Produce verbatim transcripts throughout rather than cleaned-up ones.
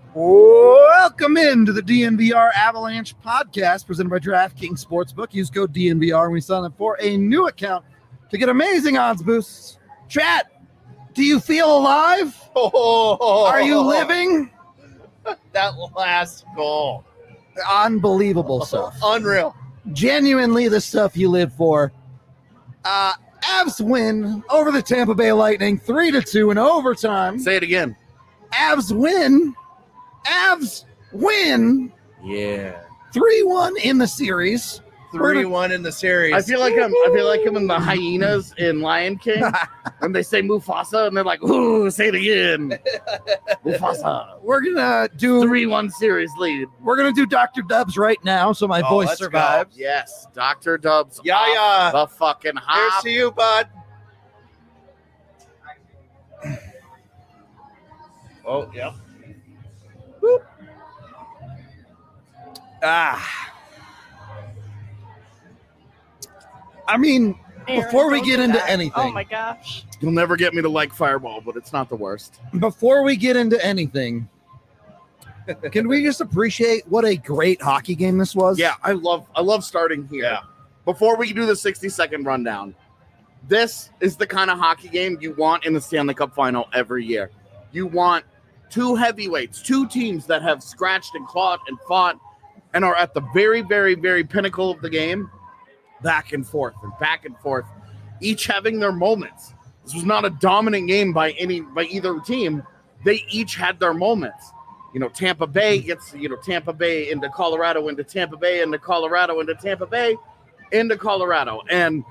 Welcome into the D N V R Avalanche podcast presented by DraftKings Sportsbook. Use code D N V R when you sign up for a new account to get amazing odds boosts. Chat, do you feel alive? Oh, Are you living? That last goal. Unbelievable stuff. Unreal. Genuinely the stuff you live for. Uh, Avs win over the Tampa Bay Lightning three to two in overtime. Say it again. Avs win. Avs win Yeah. three one in the series. three one in the series. I feel like I'm I feel like I'm in the hyenas in Lion King when they say Mufasa and they're like, ooh, say it again. Mufasa. We're gonna do three one series lead. We're gonna do Doctor Dubs right now, so my Oh, voice let's survives. Yes, Doctor Dubs. Yeah, off yeah. The fucking Here's hop. to you, bud. Oh, yeah. Ah. I mean, Aaron, before we don't get do into that. anything, Oh my gosh. You'll never get me to like Fireball, but it's not the worst. before we get into anything, can we just appreciate what a great hockey game this was? Yeah, I love I love starting here. Yeah. Before we do the sixty second rundown, this is the kind of hockey game you want in the Stanley Cup final every year. You want two heavyweights, two teams that have scratched and clawed and fought and are at the very, very, very pinnacle of the game, back and forth and back and forth, each having their moments. This was not a dominant game by any by either team. They each had their moments. You know, Tampa Bay gets, you know, Tampa Bay into Colorado, into Tampa Bay, into Colorado, into Tampa Bay, into Colorado. And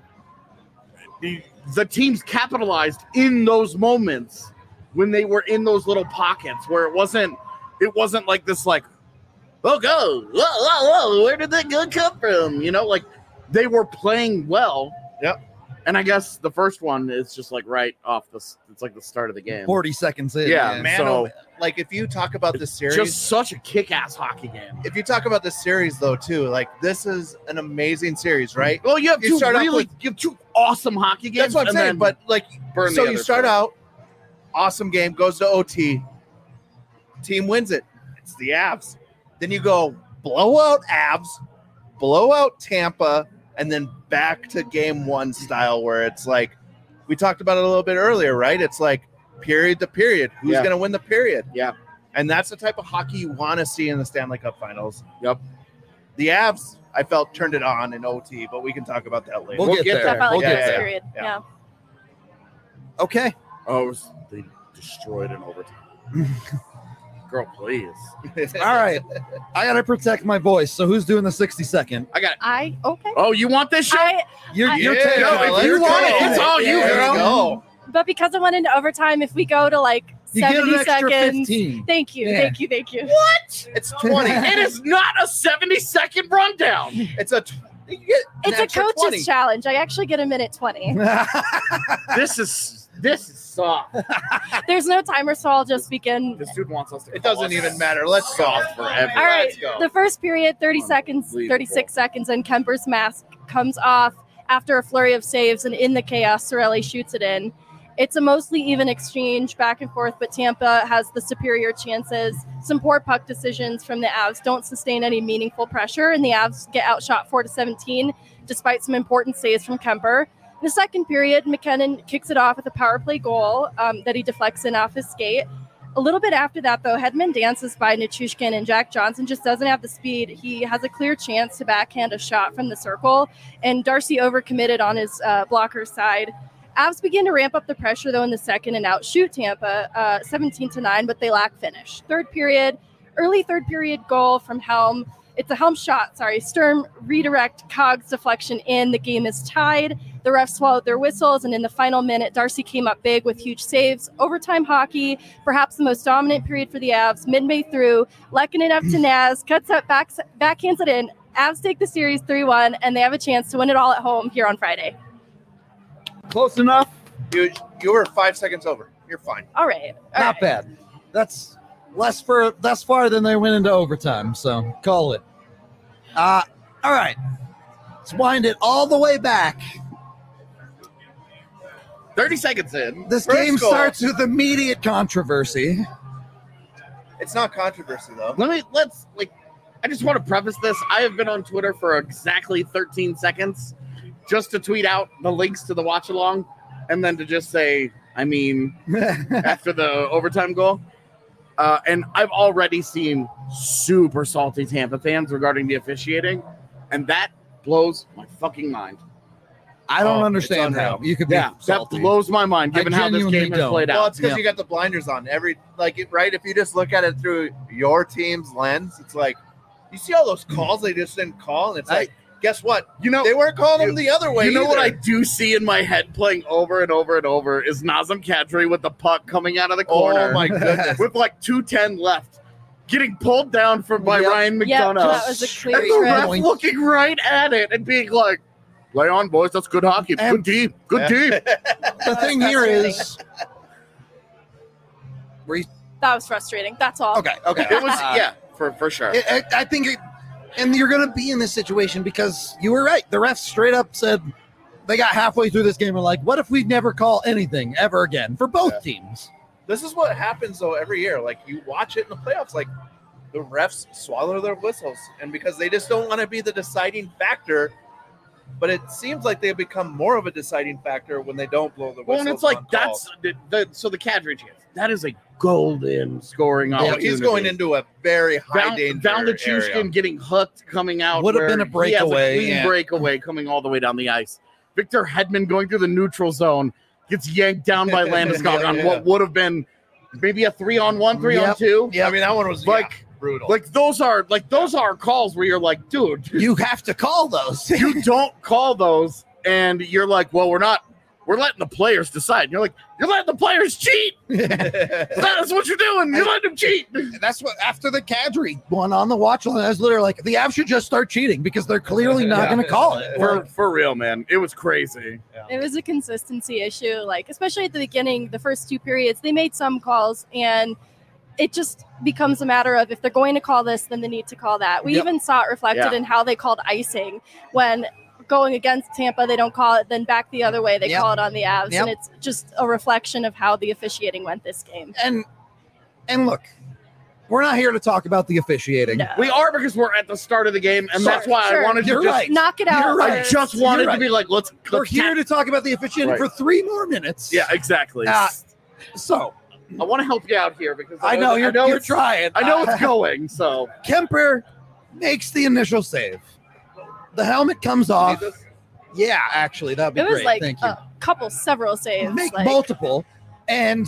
the, the teams capitalized in those moments when they were in those little pockets where it wasn't, it wasn't like this, like, oh, go, whoa, whoa, whoa, where did that gun come from? You know, like they were playing well. Yep. And I guess the first one is just like right off the, it's like the start of the game. forty seconds in. Yeah, man. Man, so- oh, like if you talk about this series, Just such a kick-ass hockey game. if you talk about this series though too, like this is an amazing series, right? Well, you have You two start off really, with- you have two awesome hockey games. That's what I'm and saying. then But like, burn so the you other start two. out, awesome game, goes to O T, team wins it. It's the Avs. Then you go blowout Avs, blowout Tampa, and then back to game one style where it's like we talked about it a little bit earlier, right? It's like period to period. Who's Yeah. going to win the period? Yeah. And that's the type of hockey you want to see in the Stanley Cup Finals. Yep. The Avs, I felt, turned it on in O T, but we can talk about that later. We'll, We'll get, get there. there. Definitely We'll Yeah, get this yeah, there. period. yeah. Yeah. Okay. Oh, it was, they destroyed in overtime. Girl, please. All right. I gotta protect my voice. So who's doing the sixty second? I got it. I okay. Oh, you want this shit? I You're, I- you're Yeah, taking no, it. let's You go. want it. It's all you, There girl. go. but because I went into overtime, if we go to like You get an seventy extra seconds. fifteen. Thank you, Yeah. thank you, thank you. What? It's twenty. It is not a seventy second rundown. It's a. Tw- you get an It's a extra coach's twenty. challenge. I actually get a minute twenty. This is this is soft. There's no timer, so I'll just begin. This dude wants us to. It call doesn't us even matter. Let's go. soft forever. All right, Let's go. the first period, thirty seconds, Unbelievable. thirty-six seconds, and Kemper's mask comes off after a flurry of saves, and in the chaos, Sorelli shoots it in. It's a mostly even exchange back and forth, but Tampa has the superior chances. Some poor puck decisions from the Avs don't sustain any meaningful pressure, and the Avs get outshot four to seventeen, despite some important saves from Kemper. In the second period, McKinnon kicks it off with a power play goal um, that he deflects in off his skate. A little bit after that, though, Hedman dances by Nichushkin, and Jack Johnson just doesn't have the speed. He has a clear chance to backhand a shot from the circle, and Darcy overcommitted on his uh, blocker side. Avs begin to ramp up the pressure, though, in the second and outshoot Tampa uh, seventeen to nine, but they lack finish. Third period, early third period goal from Helm. It's a Helm shot, sorry. Sturm redirect, Cogs deflection in. The game is tied. The refs swallowed their whistles, and in the final minute, Darcy came up big with huge saves. Overtime hockey, perhaps the most dominant period for the Avs. Midway through, Lehkonen up to Naz, cuts up, back, backhands it in. Avs take the series three one, and they have a chance to win it all at home here on Friday. Close enough. You you were five seconds over. You're fine. All right. all Not right. bad. That's less for less far than they went into overtime. So call it. Uh, all right. Let's wind it all the way back. thirty seconds in. This First game goal. starts with immediate controversy. It's not controversy though. Let me let's like. I just want to preface this. I have been on Twitter for exactly thirteen seconds, just to tweet out the links to the watch along, and then to just say, I mean, after the overtime goal. Uh, and I've already seen super salty Tampa fans regarding the officiating, and that blows my fucking mind. I don't Oh, understand it's how unreal. you could be Yeah, salty. that blows my mind, I given how this genuinely game has don't. played Well, out. it's because Yeah. you got the blinders on. Every like it, right. If you just look at it through your team's lens, it's like you see all those calls they just didn't call, and it's like, guess what? You know, They weren't calling them you- the other way. you know what I either. do see in my head playing over and over and over is Nazem Kadri with the puck coming out of the corner Oh my goodness! with like two ten left, getting pulled down from by Yep. Ryan Yeah, McDonough. that was a clear And the ref trend. looking right at it and being like, "Lay on, boys. That's good hockey. And- Good deep. Good Yeah. deep." The thing here is, That was frustrating. That's all. okay, okay. It was Uh, yeah, for for sure. I, I- I think, it, and you're going to be in this situation because you were right. The refs straight up said they got halfway through this game and were like, "What if we never call anything ever again for both Yeah. teams?" This is what happens though every year. Like you watch it in the playoffs, like the refs swallow their whistles, and because they just don't want to be the deciding factor. But it seems like they become more of a deciding factor when they don't blow the whistle. Well, and it's like that's the, the so the Kadri chance. That is a golden scoring yeah, opportunity. he's going into a very high Val, danger Val area. Nichushkin getting hooked coming out. Would have where been a he has breakaway, clean yeah. breakaway coming all the way down the ice. Victor Hedman going through the neutral zone gets yanked down by Landeskog on Yeah. what would have been maybe a three on one, three on Yep. two. Yeah, I mean that one was Like- yeah, brutal. Like those are like those are calls where you're like, dude, You have to call those. you don't call those, and you're like, well, we're not. We're letting the players decide. And you're like, you're letting the players cheat. That's what you're doing. You're letting them cheat. That's what after the Kadri one on the watch line, I was literally like, the Avs should just start cheating because they're clearly not Yeah. going to call it. For Like, for real, man. It was crazy. It was a consistency issue, like especially at the beginning, the first two periods, they made some calls, and it just becomes a matter of if they're going to call this, then they need to call that. We Yep. even saw it reflected Yeah. in how they called icing when going against Tampa, they don't call it, then back the other way, they Yep. call it on the Avs, Yep. and it's just a reflection of how the officiating went this game. and and look, we're not here to talk about the officiating. No. We are because we're at the start of the game, and Sure, that's why sure. I wanted to You're just. right. Knock it out. You're right. I first. just wanted You're to be like, let's. We're let's here tap- to talk about the officiating Right. for three more minutes. Yeah, exactly. Uh, So I want to help you out here because I know you're, I know you're it's, trying. I know Uh, it's going. So Kemper makes the initial save. The helmet comes off. Need this? Yeah, actually, that'd be It was great. like Thank you. a couple, several saves. Make like, multiple, and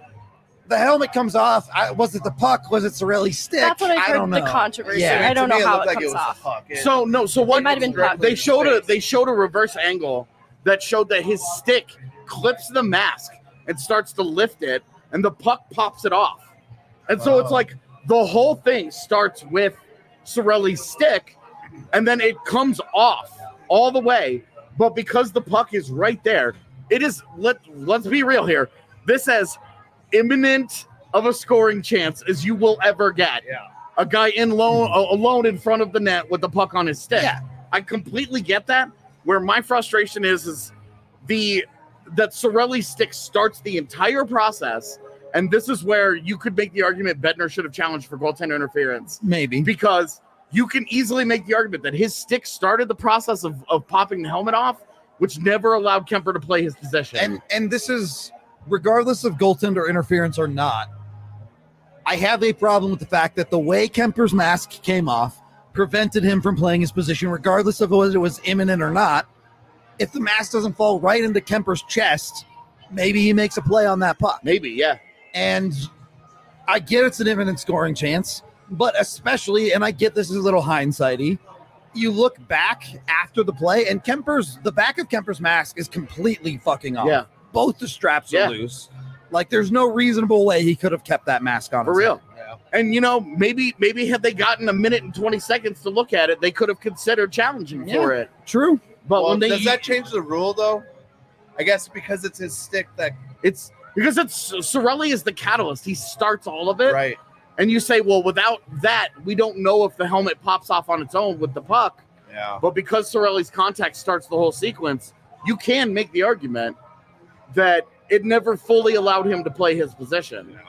the helmet comes off. I, was it the puck? Was it Sorelli's stick? That's what I heard don't the know. controversy. Yeah. I don't To me, know it how looked it like comes was the off. puck. It- So no. So what It might have been puck. they showed a Face. they showed a reverse angle that showed that his stick clips the mask and starts to lift it, and the puck pops it off. And so it's Wow. like the whole thing starts with Sorelli's stick, and then it comes off all the way. But because the puck is right there, it is. Let Let's be real here. This as imminent of a scoring chance as you will ever get. Yeah. A guy in lone, alone in front of the net with the puck on his stick. Yeah. I completely get that. Where my frustration is, is the that Sorelli's stick starts the entire process, and this is where you could make the argument Bednar should have challenged for goaltender interference Maybe. because you can easily make the argument that his stick started the process of, of popping the helmet off, which never allowed Kemper to play his position. And and this is regardless of goaltender interference or not. I have a problem with the fact that the way Kemper's mask came off prevented him from playing his position, regardless of whether it was imminent or not. If the mask doesn't fall right into Kemper's chest, maybe he makes a play on that puck. Maybe, yeah. And I get it's an imminent scoring chance, but especially, and I get this is a little hindsighty, you look back after the play, and Kemper's the back of Kemper's mask is completely fucking off. Yeah. Both the straps Yeah. are loose. Like there's no reasonable way he could have kept that mask on. For his real. head. Yeah. And you know, maybe maybe had they gotten a minute and twenty seconds to look at it, they could have considered challenging for it. True. But Well, when they does that change the rule though? I guess because it's his stick that it's because it's Sorelli is the catalyst. He starts all of it. right. And you say, well, without that, we don't know if the helmet pops off on its own with the puck. Yeah. But because Sorelli's contact starts the whole sequence, you can make the argument that it never fully allowed him to play his position.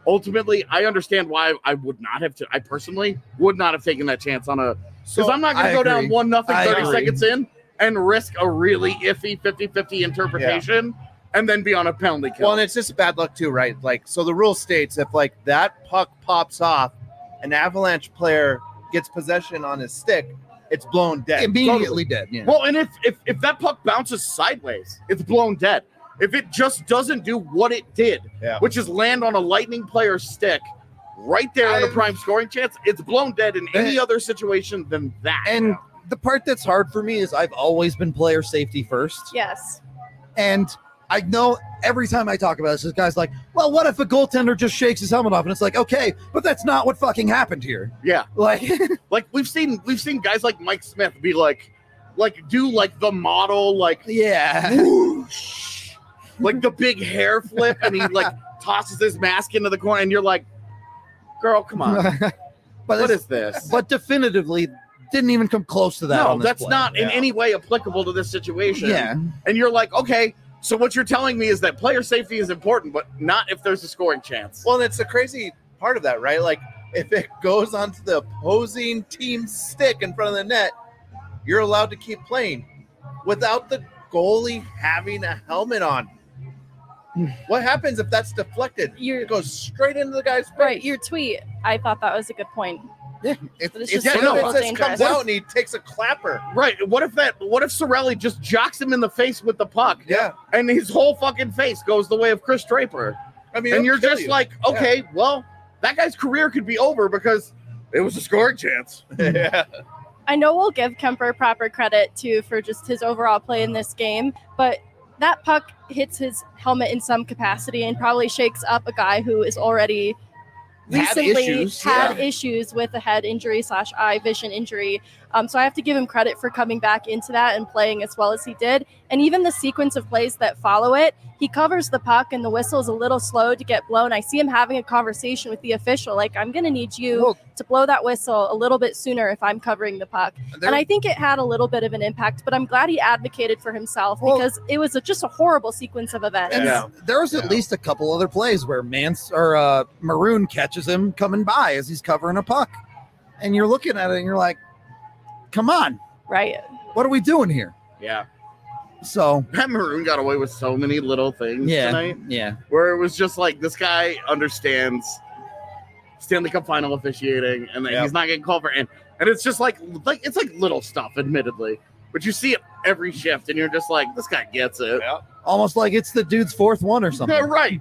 ultimately, I understand why I would not have to. I personally would not have taken that chance on a because So, I'm not going I to go agree. down one nothing I thirty agree. seconds in and risk a really iffy fifty-fifty interpretation and then be on a penalty kill. Well, and it's just bad luck too, right? Like, so the rule states if like that puck pops off, an Avalanche player gets possession on his stick, it's blown dead. Immediately dead. Yeah. Well, and if, if if that puck bounces sideways, it's blown dead. If it just doesn't do what it did, Yeah. which is land on a Lightning player's stick right there on a I've- prime scoring chance, it's blown dead in any Eh. other situation than that. And the part that's hard for me is I've always been player safety first. Yes. And I know every time I talk about this, this guy's like, well, what if a goaltender just shakes his helmet off? And it's like, okay, but that's not what fucking happened here. yeah, Like, like we've seen we've seen guys like Mike Smith be like, like do like the model like yeah. whoosh, like the big hair flip, and he like tosses his mask into the corner, and you're like, girl, come on, but what it's- is this? But definitively didn't even come close to that. No, on this that's play. not in Yeah. any way applicable to this situation. Yeah. And you're like, okay, so what you're telling me is that player safety is important, but not if there's a scoring chance. Well, and it's the crazy part of that, right? Like, if it goes onto the opposing team's stick in front of the net, you're allowed to keep playing without the goalie having a helmet on. What happens if that's deflected? You're It goes straight into the guy's face. right. Your tweet, I thought that was a good point. Yeah. It, But it's it's just just so it says dangerous. comes out and he takes a clapper. Right. What if that what if Sorelli just jocks him in the face with the puck? Yeah. And his whole fucking face goes the way of Chris Draper. I mean, And it'll you're kill just you. like, okay, well, that guy's career could be over because it was a scoring chance. yeah. I know we'll give Kemper proper credit too for just his overall play in this game, but that puck hits his helmet in some capacity and probably shakes up a guy who is already Had recently issues, had yeah. issues with a head injury slash eye vision injury. Um, so I have to give him credit for coming back into that and playing as well as he did. And even the sequence of plays that follow it, he covers the puck and the whistle is a little slow to get blown. I see him having a conversation with the official, like, I'm going to need you Well- to blow that whistle a little bit sooner if I'm covering the puck. There- And I think it had a little bit of an impact, but I'm glad he advocated for himself Well- because it was a, just a horrible sequence of events. And Yeah. there was at Yeah. least a couple other plays where Mance or uh, Maroon catches him coming by as he's covering a puck, and you're looking at it and you're like, "Come on, Right. what are we doing here?" Yeah. So Pat Maroon got away with so many little things yeah, tonight yeah, where it was just like this guy understands Stanley Cup final officiating and that Yep. he's not getting called for and and it's just like like it's like little stuff, admittedly. But you see it every shift and you're just like, this guy gets it. Yeah. almost like it's the dude's fourth one or Yeah, something. right.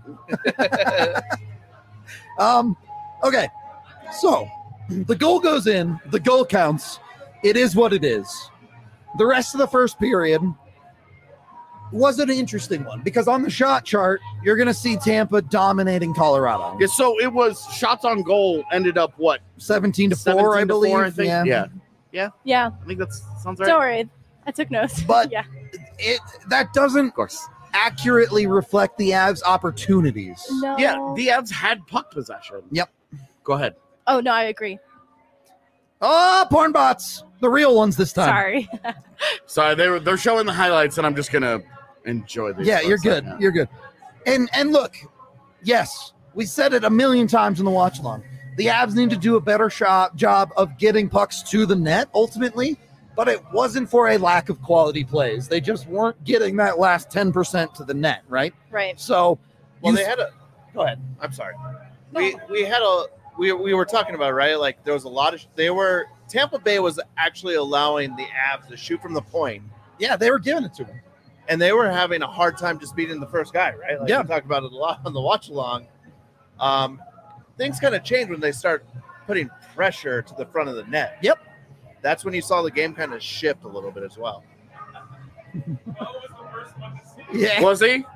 Um, okay, so the goal goes in, the goal counts. It is what it is. The rest of the first period was an interesting one because on the shot chart, you're going to see Tampa dominating Colorado. Yeah, so it was shots on goal ended up what? seventeen to seventeen four, I to believe. four, I think. Yeah. Yeah. Yeah. I think that sounds right. Don't worry. I took notes. But- yeah. It that doesn't Of course. accurately reflect the Avs' opportunities. No. Yeah, the Avs had puck possession. Yep. Go ahead. Oh, no, I agree. Oh, porn bots, the real ones this time. Sorry. Sorry, they were they're showing the highlights, and I'm just gonna enjoy these. Yeah, for a you're good. second. You're good. And and look, yes, we said it a million times in the watch along. The Avs need to do a better shot, job of getting pucks to the net ultimately, but it wasn't for a lack of quality plays. They just weren't getting that last ten percent to the net, right? Right. So, Well, you- they had a. go ahead. I'm sorry. We we had a we we were talking about, right? Like there was a lot of they were Tampa Bay was actually allowing the Avs to shoot from the point, Yeah, they were giving it to him. and they were having a hard time just beating the first guy, right? Like Yeah. we talked about it a lot on the watch along. Um, things kind of change when they start putting pressure to the front of the net. Yep. That's when you saw the game kind of shift a little bit as well. Yeah. Was he?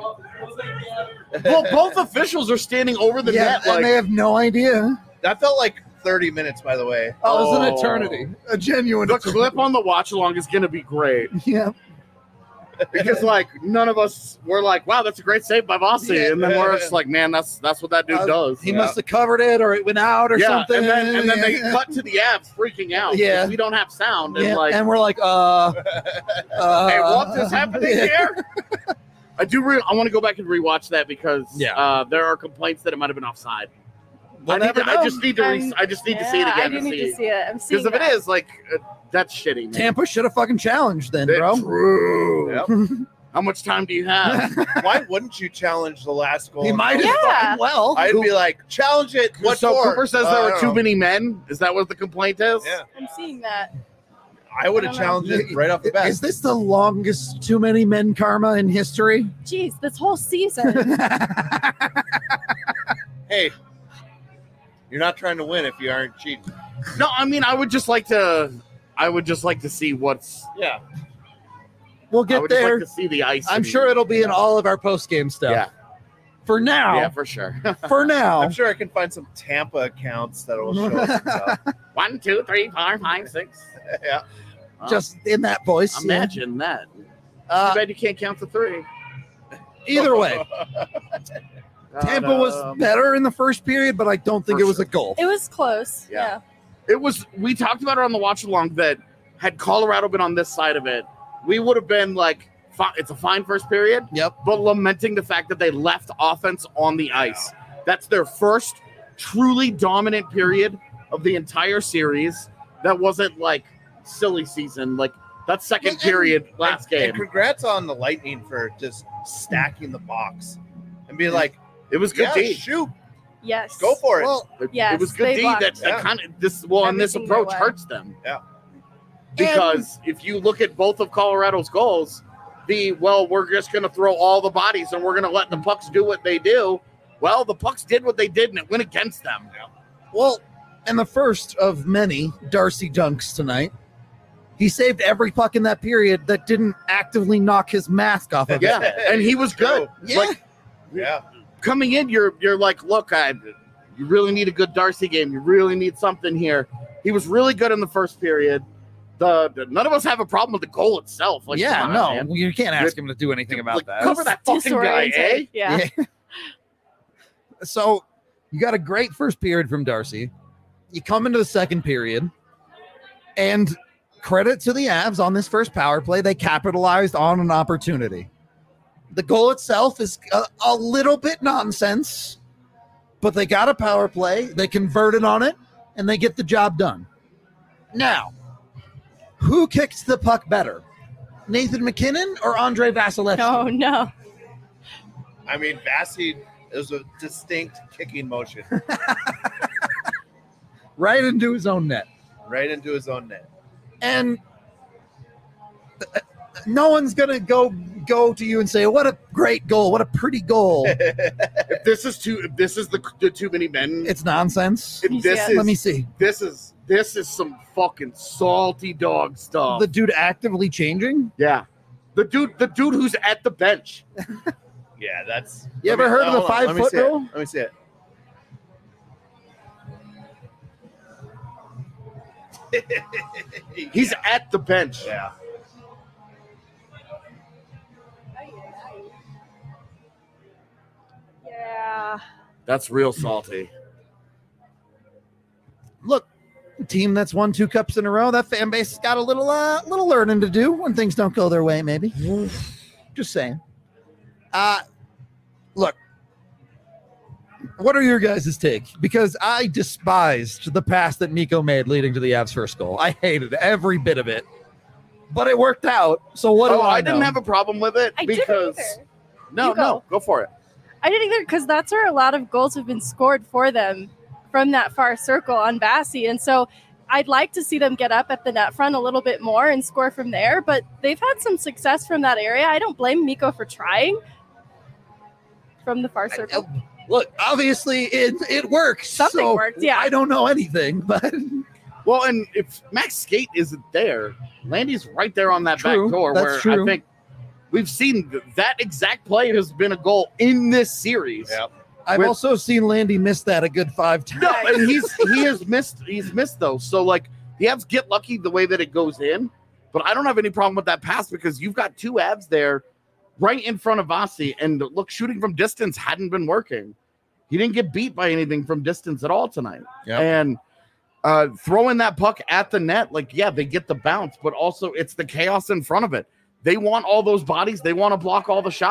Well, both officials are standing over the yeah, net. and Like, they have no idea. That felt like thirty minutes, by the way. Oh, it was an Oh. eternity. A genuine the eternity. clip on the watch along is going to be great Yeah. because, like, none of us were like, "Wow, that's a great save by Vossi," Yeah. and then we're just like, "Man, that's that's what that dude Uh, does." He yeah. must have covered it or it went out or yeah, something. and then and then they Yeah. cut to the Avs freaking out. 'cause Yeah. we don't have sound, and Yeah, like, and we're like, uh, uh "Hey, what is happening yeah. here?" I do. Re- I want to go back and rewatch that because Yeah. uh, there are complaints that it might have been offside. We'll I, need never to, I know. just need to. Re- I'm- I just need yeah, to see it I again do to need see. to see it. I'm seeing Because if it that. is like uh, that's shitty, man. Tampa should have fucking challenged then, bro. True. Yep. How much time do you have? Why wouldn't you challenge the last goal? He might have Yeah. fucking well. I'd be like, challenge it. What so for? Cooper says Uh, there I were don't too know. many men. Is that what the complaint is? Yeah, I'm seeing that. I would have I don't know. challenged it right off the bat. Is this the longest too many men karma in history? Jeez, this whole season. Hey, you're not trying to win if you aren't cheating. No, I mean I would just like to. I would just like to see what's. Yeah. We'll I get would there. just like to see the ice. I'm and- sure it'll be in all of our post game stuff. Yeah. For now, Yeah, for sure. for now, I'm sure I can find some Tampa accounts that will show us some stuff. One, two, three, four, five, six. Yeah. Wow. just in that voice. yeah. imagine that. Uh, Too bad you can't count to three. either way, Tampa was Um, better in the first period, but I don't think For it was sure. a goal. It was close. Yeah. Yeah. It was. We talked about it on the watch along that had Colorado been on this side of it, we would have been like, fi- it's a fine first period. Yep. But lamenting the fact that they left offense on the ice. That's their first truly dominant period of the entire series. That wasn't like silly season. Like that second And- period last And game. congrats on the Lightning for just stacking the box and be like, It was good yeah, D. shoot, Yes. go for it. Well, It, Yes, it was good they D. blocked That, that Yeah. kind of this well, and this everything their approach way. hurts them. Yeah. Because if you look at both of Colorado's goals, the well, we're just going to throw all the bodies and we're going to let the pucks do what they do. Well, the pucks did what they did, and it went against them. well, and the first of many Darcy dunks tonight. He saved every puck in that period that didn't actively knock his mask off of it. Yeah, and he was good. Yeah. Like Yeah. coming in, you're you're like, look, I, you really need a good Darcy game. You really need something here. He was really good in the first period. The, the none of us have a problem with the goal itself. Like, yeah, come on, no, man. you can't ask him to do anything about Like, that. cover that fucking guy, eh? Disoriented. Yeah. So you got a great first period from Darcy. You come into the second period, and credit to the Avs on this first power play. They capitalized on an opportunity. The goal itself is a, a little bit nonsense, but they got a power play. They converted on it, and they get the job done. Now, who kicks the puck better? Nathan McKinnon or Andre Vasilevsky? Oh no. I mean, Vassy is a distinct kicking motion Right into his own net. right into his own net. And uh, no one's gonna go go to you and say, "What a great goal! What a pretty goal!" If this is too, if this is the, the too many men. It's nonsense. if this Yeah. is Let me see. this is this is some fucking salty dog stuff. The dude actively changing. yeah, the dude, the dude who's at the bench. Yeah, that's. You Let ever me- heard of the hold on, five let me foot see it. rule? Let me see it. He's at the bench. Yeah. Yeah. That's real salty. Look, a team that's won two cups in a row. That fan base has got a little uh, little learning to do when things don't go their way. Maybe. Just saying. Uh look. What are your guys' take? Because I despised the pass that Mikko made leading to the Avs' first goal. I hated every bit of it, but it worked out. So what oh, do I, I didn't know? have a problem with it I didn't because either. no, You go. no, go for it. I didn't either because that's where a lot of goals have been scored for them from that far circle on Bassey. And so I'd like to see them get up at the net front a little bit more and score from there. But they've had some success from that area. I don't blame Mikko for trying from the far circle. Look, obviously it it works. Something so worked, yeah. I don't know anything, but Well, and if Max Skate isn't there, Landy's right there on that True, back door that's where true. I think we've seen th- that exact play has been a goal in this series. Yep. I've With- also seen Landy miss that a good five times. No, and he's he has missed he's missed those. So like the Avs get lucky the way that it goes in, but I don't have any problem with that pass because you've got two Avs there right in front of Vasi, and look, shooting from distance hadn't been working. He didn't get beat by anything from distance at all tonight. Yep. And uh, throwing that puck at the net, like, yeah, they get the bounce, but also it's the chaos in front of it. They want all those bodies. They want to block all the shots.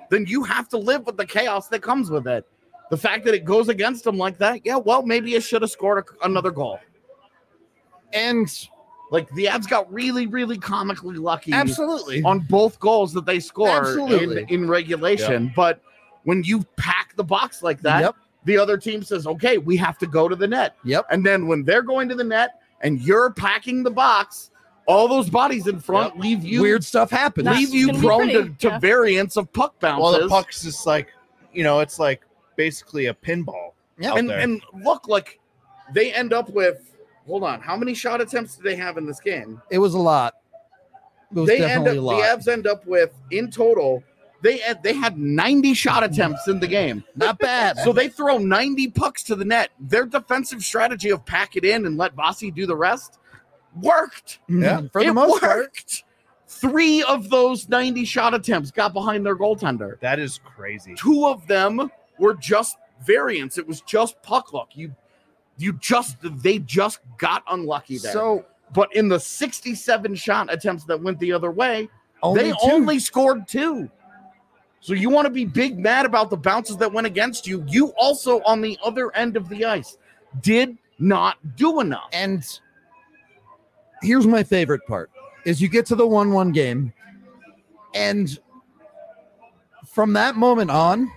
then you have to live with the chaos that comes with it. The fact that it goes against them like that, yeah, well, maybe you should have scored a, another goal. And like the Avs got really, really comically lucky absolutely on both goals that they scored Absolutely. in, in regulation. Yep. But when you pack the box like that, Yep. the other team says, okay, we have to go to the net. Yep. And then when they're going to the net and you're packing the box, all those bodies in front Yep. leave you weird stuff happens. leave It's you gonna be prone to, pretty, to yeah. variants of puck bounces. Well, the puck's just like, you know, it's like basically a pinball. Yeah. out and, there. and look, like they end up with, hold on, how many shot attempts do they have in this game? It was a lot. It was They end definitely up, a lot. the Avs end up with, in total, they had, they had ninety shot attempts in the game. Not bad. So they throw ninety pucks to the net. Their defensive strategy of pack it in and let Vasi do the rest worked. Yeah. for the it most part. worked. Three of those ninety shot attempts got behind their goaltender. That is crazy. Two of them were just variants. It was just puck luck. You you just they just got unlucky there. So but in the sixty-seven shot attempts that went the other way, only they two. only scored two. So you want to be big mad about the bounces that went against you. You also, on the other end of the ice, did not do enough. And here's my favorite part is you get to the one one game, and from that moment on,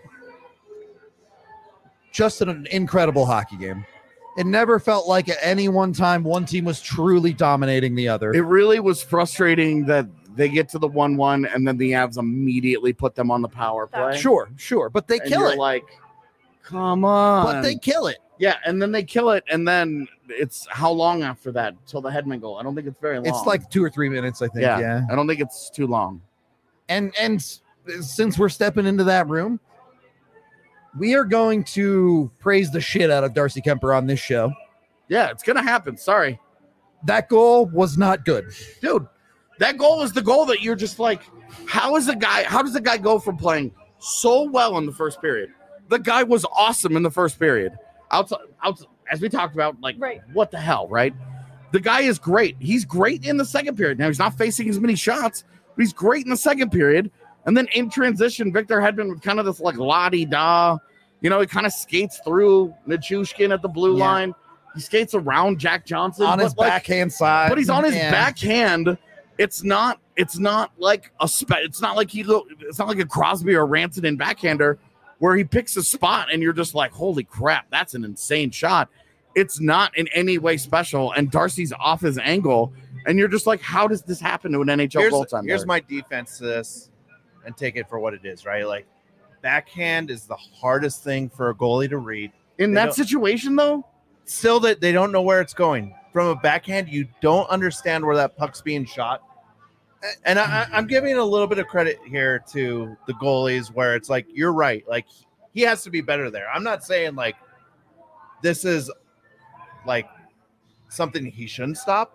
just an incredible hockey game. It never felt like at any one time one team was truly dominating the other. It really was frustrating that they get to the one one and then the Avs immediately put them on the power play. Sure, sure, but they And kill you're it. like, come on. But they kill it. Yeah, and then they kill it, and then it's how long after that till the Hedman goal? I don't think it's very long. It's like two or three minutes, I think. yeah, Yeah. I don't think it's too long. And and since we're stepping into that room, we are going to praise the shit out of Darcy Kemper on this show. Yeah, it's gonna happen. Sorry, That goal was not good. dude. That goal is the goal that you're just like, how is the guy? How does the guy go from playing so well in the first period? The guy was awesome in the first period. Outside, outside, as we talked about, like, Right. what the hell, right? The guy is great. He's great in the second period. Now he's not facing as many shots, but he's great in the second period. And then in transition, Victor Hedman with kind of this like la-di-da, you know, he kind of skates through Nichushkin at the blue Yeah. line. He skates around Jack Johnson On but, his like, backhand side. but he's on his Yeah. backhand. It's not. It's not like a. Spe- it's not like he. Go, it's not like a Crosby or Rantanen backhander where he picks a spot and you're just like, holy crap, that's an insane shot. It's not in any way special. And Darcy's off his angle, and you're just like, how does this happen to an N H L Here's, goaltender? here's my defense to this, and take it for what it is, right? Like, backhand is the hardest thing for a goalie to read. in they that don't- situation, though. Still, that they don't know where it's going. From a backhand, you don't understand where that puck's being shot. And I, I- I'm giving a little bit of credit here to the goalies, where it's like, you're right. Like, he has to be better there. I'm not saying like this is like something he shouldn't stop,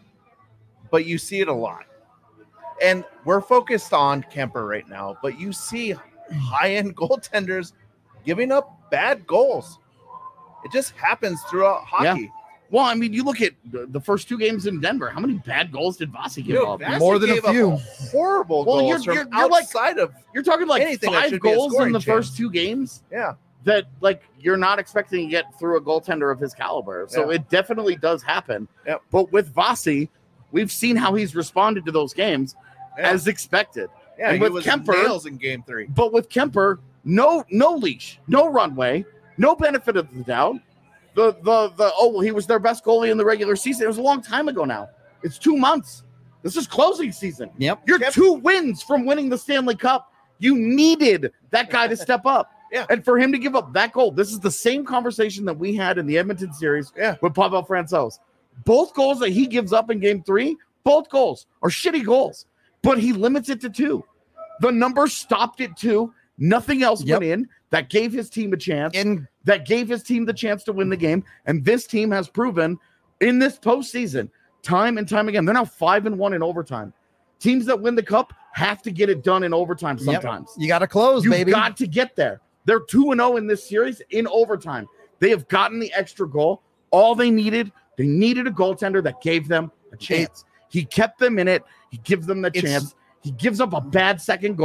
but you see it a lot. And we're focused on Kemper right now, but you see high-end goaltenders giving up bad goals. It just happens throughout hockey. Well, I mean, you look at the, the first two games in Denver. How many bad goals did Vasi give Dude, up? Vasi More than a gave up few. horrible Well, goals you're- from you're- you're like- outside of You're talking like anything that five should be a goals in scoring the chance. first two games. yeah. That like you're not expecting to get through a goaltender of his caliber. So Yeah. it definitely does happen. Yep. But with Vasi, we've seen how he's responded to those games Yeah. as expected. Yeah, and he with was Kemper- nails in game three. But with Kemper, no no leash, no runway, no benefit of the doubt. The the the oh well, he was their best goalie in the regular season. It was a long time ago now. It's two months. This is closing season. Yep. You're Kemper- two wins from winning the Stanley Cup. You needed that guy to step up. Yeah. And for him to give up that goal, this is the same conversation that we had in the Edmonton series Yeah. with Pavel Francouz. Both goals that he gives up in game three, both goals are shitty goals, but he limits it to two. The number stopped at two. Nothing else Yep. went in. That gave his team a chance. And that gave his team the chance to win the game. And this team has proven in this postseason, time and time again, they're now five and one in overtime. Teams that win the cup have to get it done in overtime Yep. sometimes. you got to close, You've baby. got to get there. They're two and oh in this series in overtime. They have gotten the extra goal. All they needed, they needed a goaltender that gave them a chance. He kept them in it. He gives them the It's- chance. He gives up a bad second goal.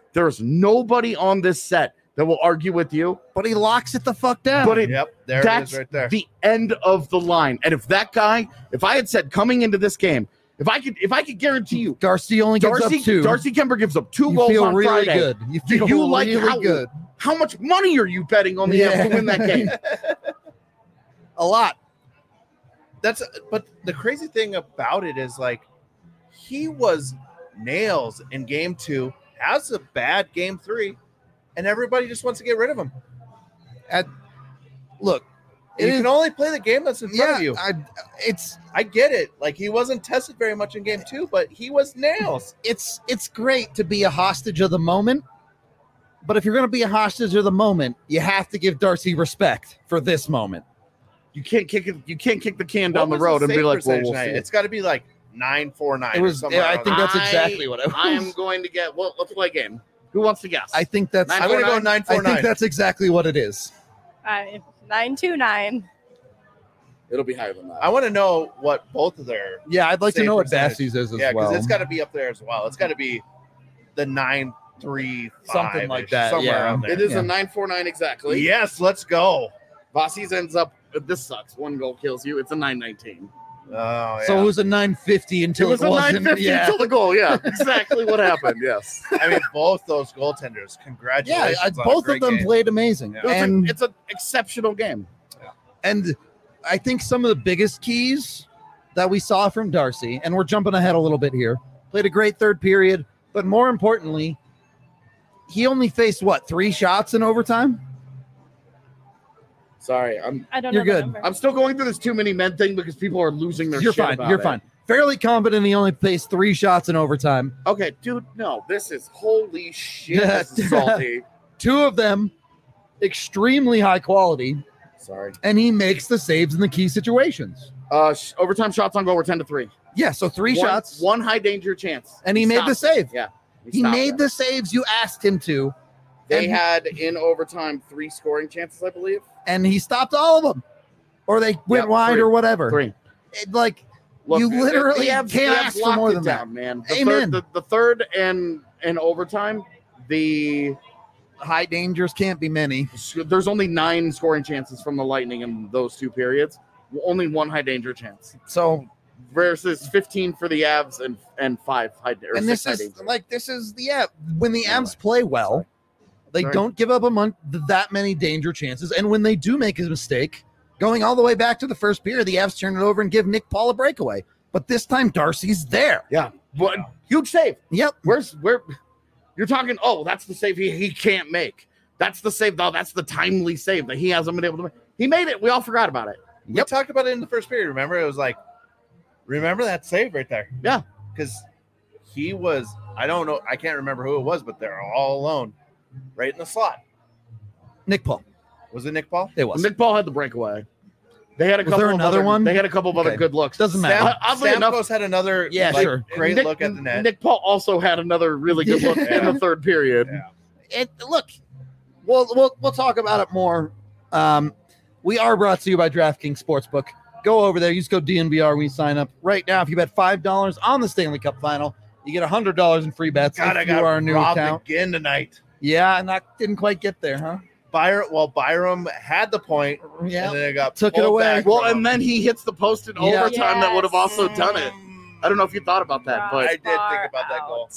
There's nobody on this set that will argue with you. But he locks it the fuck down. But it, Yep, there it that's is right there. the end of the line. And if that guy, if I had said coming into this game, if I could, if I could guarantee you, Darcy only gives Darcy, up two. Darcy Kemper gives up two you goals feel on really Friday. good. You Do feel you like really how, good. how much money are you betting on the Yeah. Avs to win that game? A lot. That's but the crazy thing about it is like he was nails in game two, has a bad game three, and everybody just wants to get rid of him. At look, You it is- can only play the game that's in front yeah, of you. I, it's I get it. Like he wasn't tested very much in game two, but he was nails. it's it's great to be a hostage of the moment, but if you're going to be a hostage of the moment, you have to give Darcy respect for this moment. You can't kick it. You can't kick the can down What the was road and be save like, "Well, percentage we'll tonight? see." It's got to be like nine four nine. It was. Or something I around think there. that's exactly what I was. I am going to get. Well, let's play a game. Who wants to guess? I think that's. Nine, I'm going to four, go nine? nine I four think nine. that's exactly what it is. I, nine two nine. It'll be higher than that. I want to know what both of their Yeah, I'd like to Save know what percentage. Bassie's is as yeah, because well. it's got to be up there as well. It's got to be the nine three Something like that, somewhere yeah. around there. It is Yeah. a nine four nine exactly. Yes, let's go. Vossi's ends up. This sucks. One goal kills you. It's a nine nineteen. Oh, yeah. So it was a nine fifty It until was it, a wasn't. nine fifty Yeah, until the goal. Yeah, exactly what happened. Yes. I mean, both those goaltenders. yeah. Congratulations. I, on a both of great them game. played amazing, Yeah. It was a- and it's an exceptional game. and I think some of the biggest keys that we saw from Darcy, and we're jumping ahead a little bit here, played a great third period, but more importantly, he only faced what three shots in overtime. Sorry, I'm I don't You're know. the good. number. I'm still going through this too many men thing because people are losing their You're shit fine. about You're it. fine. Fairly confident he only faced three shots in overtime. Okay, dude, no, this is holy shit. This is salty. Two of them extremely high quality, Sorry. and he makes the saves in the key situations. Uh, sh- overtime shots on goal were ten to three. Yeah, so three One- shots, one high danger chance, and he, made the stopped it. save. Yeah, He stopped made it. the saves you asked him to, They and- had in overtime three scoring chances, I believe. and he stopped all of them, or they went Yep, wide three. or whatever. Three. It, like Look, You the- literally the Avs- can't the Avs ask for locked more it than down, man. The Amen. Third, the, the third and and overtime, the high dangers can't be many. there's only nine scoring chances from the Lightning in those two periods. Only one high danger chance So, versus fifteen for the Avs and and five high or and six this high is danger. like this is the yeah. When the Anyway. Avs play well, they Sorry. don't give up a month that many danger chances, and when they do make a mistake, going all the way back to the first period, the Avs turn it over and give Nick Paul a breakaway. But this time, Darcy's there. Yeah, but huge save. Yep. Where's where? You're talking. Oh, that's the save he, he can't make. That's the save. though. That's the timely save that he hasn't been able to make. He made it. We all forgot about it. We talked about it in the first period. Remember, it was like, remember that save right there? Yeah. Because he was, I don't know, I can't remember who it was, but they're all alone right in the slot. Nick Paul. Was it Nick Paul? It was. Nick Paul had the breakaway. They had a Was couple there of another other, one? They had a couple of other Okay. good looks. Doesn't matter. Sam, Oddly enough- Stamkos had another Yeah, like, sure. great Nick, look at the net. Nick Paul also had another really good look Yeah. in the third period. Yeah. It look. We'll we'll we'll talk about it more. Um, we are brought to you by DraftKings Sportsbook. Go over there. Use code D N V R when you sign up. Right now, if you bet five dollars on the Stanley Cup Final, you get a hundred dollars in free bets. God, if I you got are a new robbed account. again tonight. Yeah, and that didn't quite get there, huh? Byron, well, Byram had the point, Yeah. and then it got Took it pulled away. back Well, from and him. then he hits the post in Yeah. overtime that would have also Yes. done it. I don't know if you thought about that, I but did think about that goal.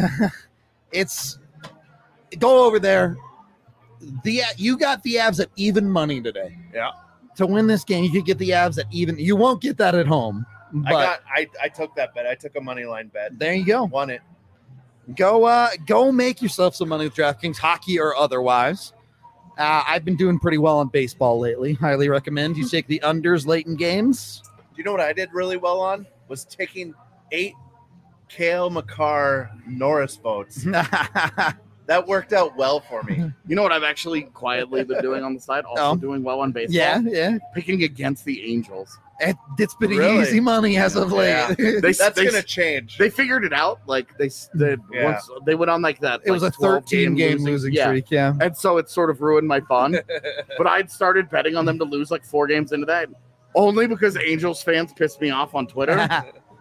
It's go over there. The you got the Avs at even money today. Yeah. To win this game, you could get the Avs at even. You won't get that at home. But I got, I, I took that bet. I took a money line bet. there you go. Won it. Go uh go make yourself some money with DraftKings, hockey or otherwise. Uh, I've been doing pretty well on baseball lately. Highly recommend you take the unders late in games. Do you know what I did really well on? Was taking eight Kale McCarr Norris votes. That worked out well for me. you know what I've actually quietly been doing on the side? Also Oh. doing well on baseball. yeah, yeah. Picking against the Angels. It, it's been Really? easy money as of late. Yeah. They, That's they, gonna change. they figured it out. Like they they, Yeah. once, they went on like that. it was like a twelve thirteen game losing yeah. streak. Yeah. And so it sort of ruined my fun. But I'd started betting on them to lose like four games into that. Only because Angels fans pissed me off on Twitter.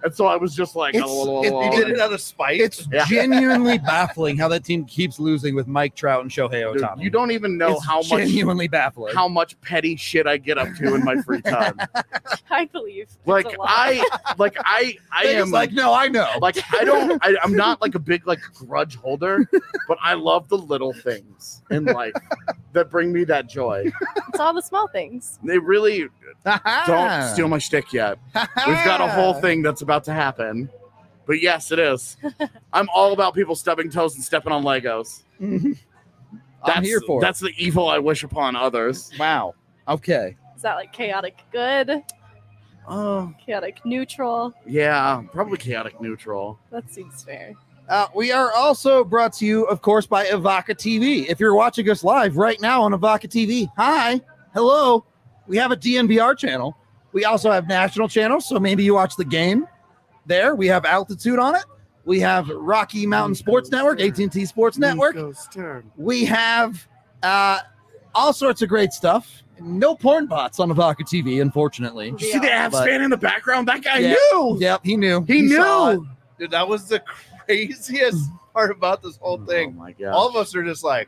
And so I was just like, It's- oh, it- You it- did it out of spite. It's Yeah. genuinely baffling how that team keeps losing with Mike Trout and Shohei dude, Ohtani. you don't even know It's how much genuinely baffling. how much petty shit I get up to in my free time. I believe. It's like a lot. I, like I, I Vegas am like, no, I know. like I don't. I, I'm not like a big like grudge holder, but I love the little things in life that bring me that joy. It's all the small things. They really don't steal my shtick yet. We've got a whole thing that's about to happen. But yes, it is. I'm all about people stubbing toes and stepping on Legos. I'm That's, here for That's the evil I wish upon others. it. Wow. Okay. Is that like chaotic good, Oh, chaotic neutral? yeah, probably chaotic neutral. That seems fair. Uh, we are also brought to you, of course, by Avaka T V. If you're watching us live right now on Avaka T V, hi, hello. We have a D N V R channel. We also have national channels, so maybe you watch the game there. We have Altitude on it. We have Rocky Mountain Sports Network, A T and T Sports Network. We have uh, all sorts of great stuff. No porn bots on Avaka T V, unfortunately. Did you see the Avs But- fan in the background? That guy Yeah. knew. Yep, he knew. He, saw it. knew. Dude, that was the craziest part about this whole Oh thing. my god! All of us are just like,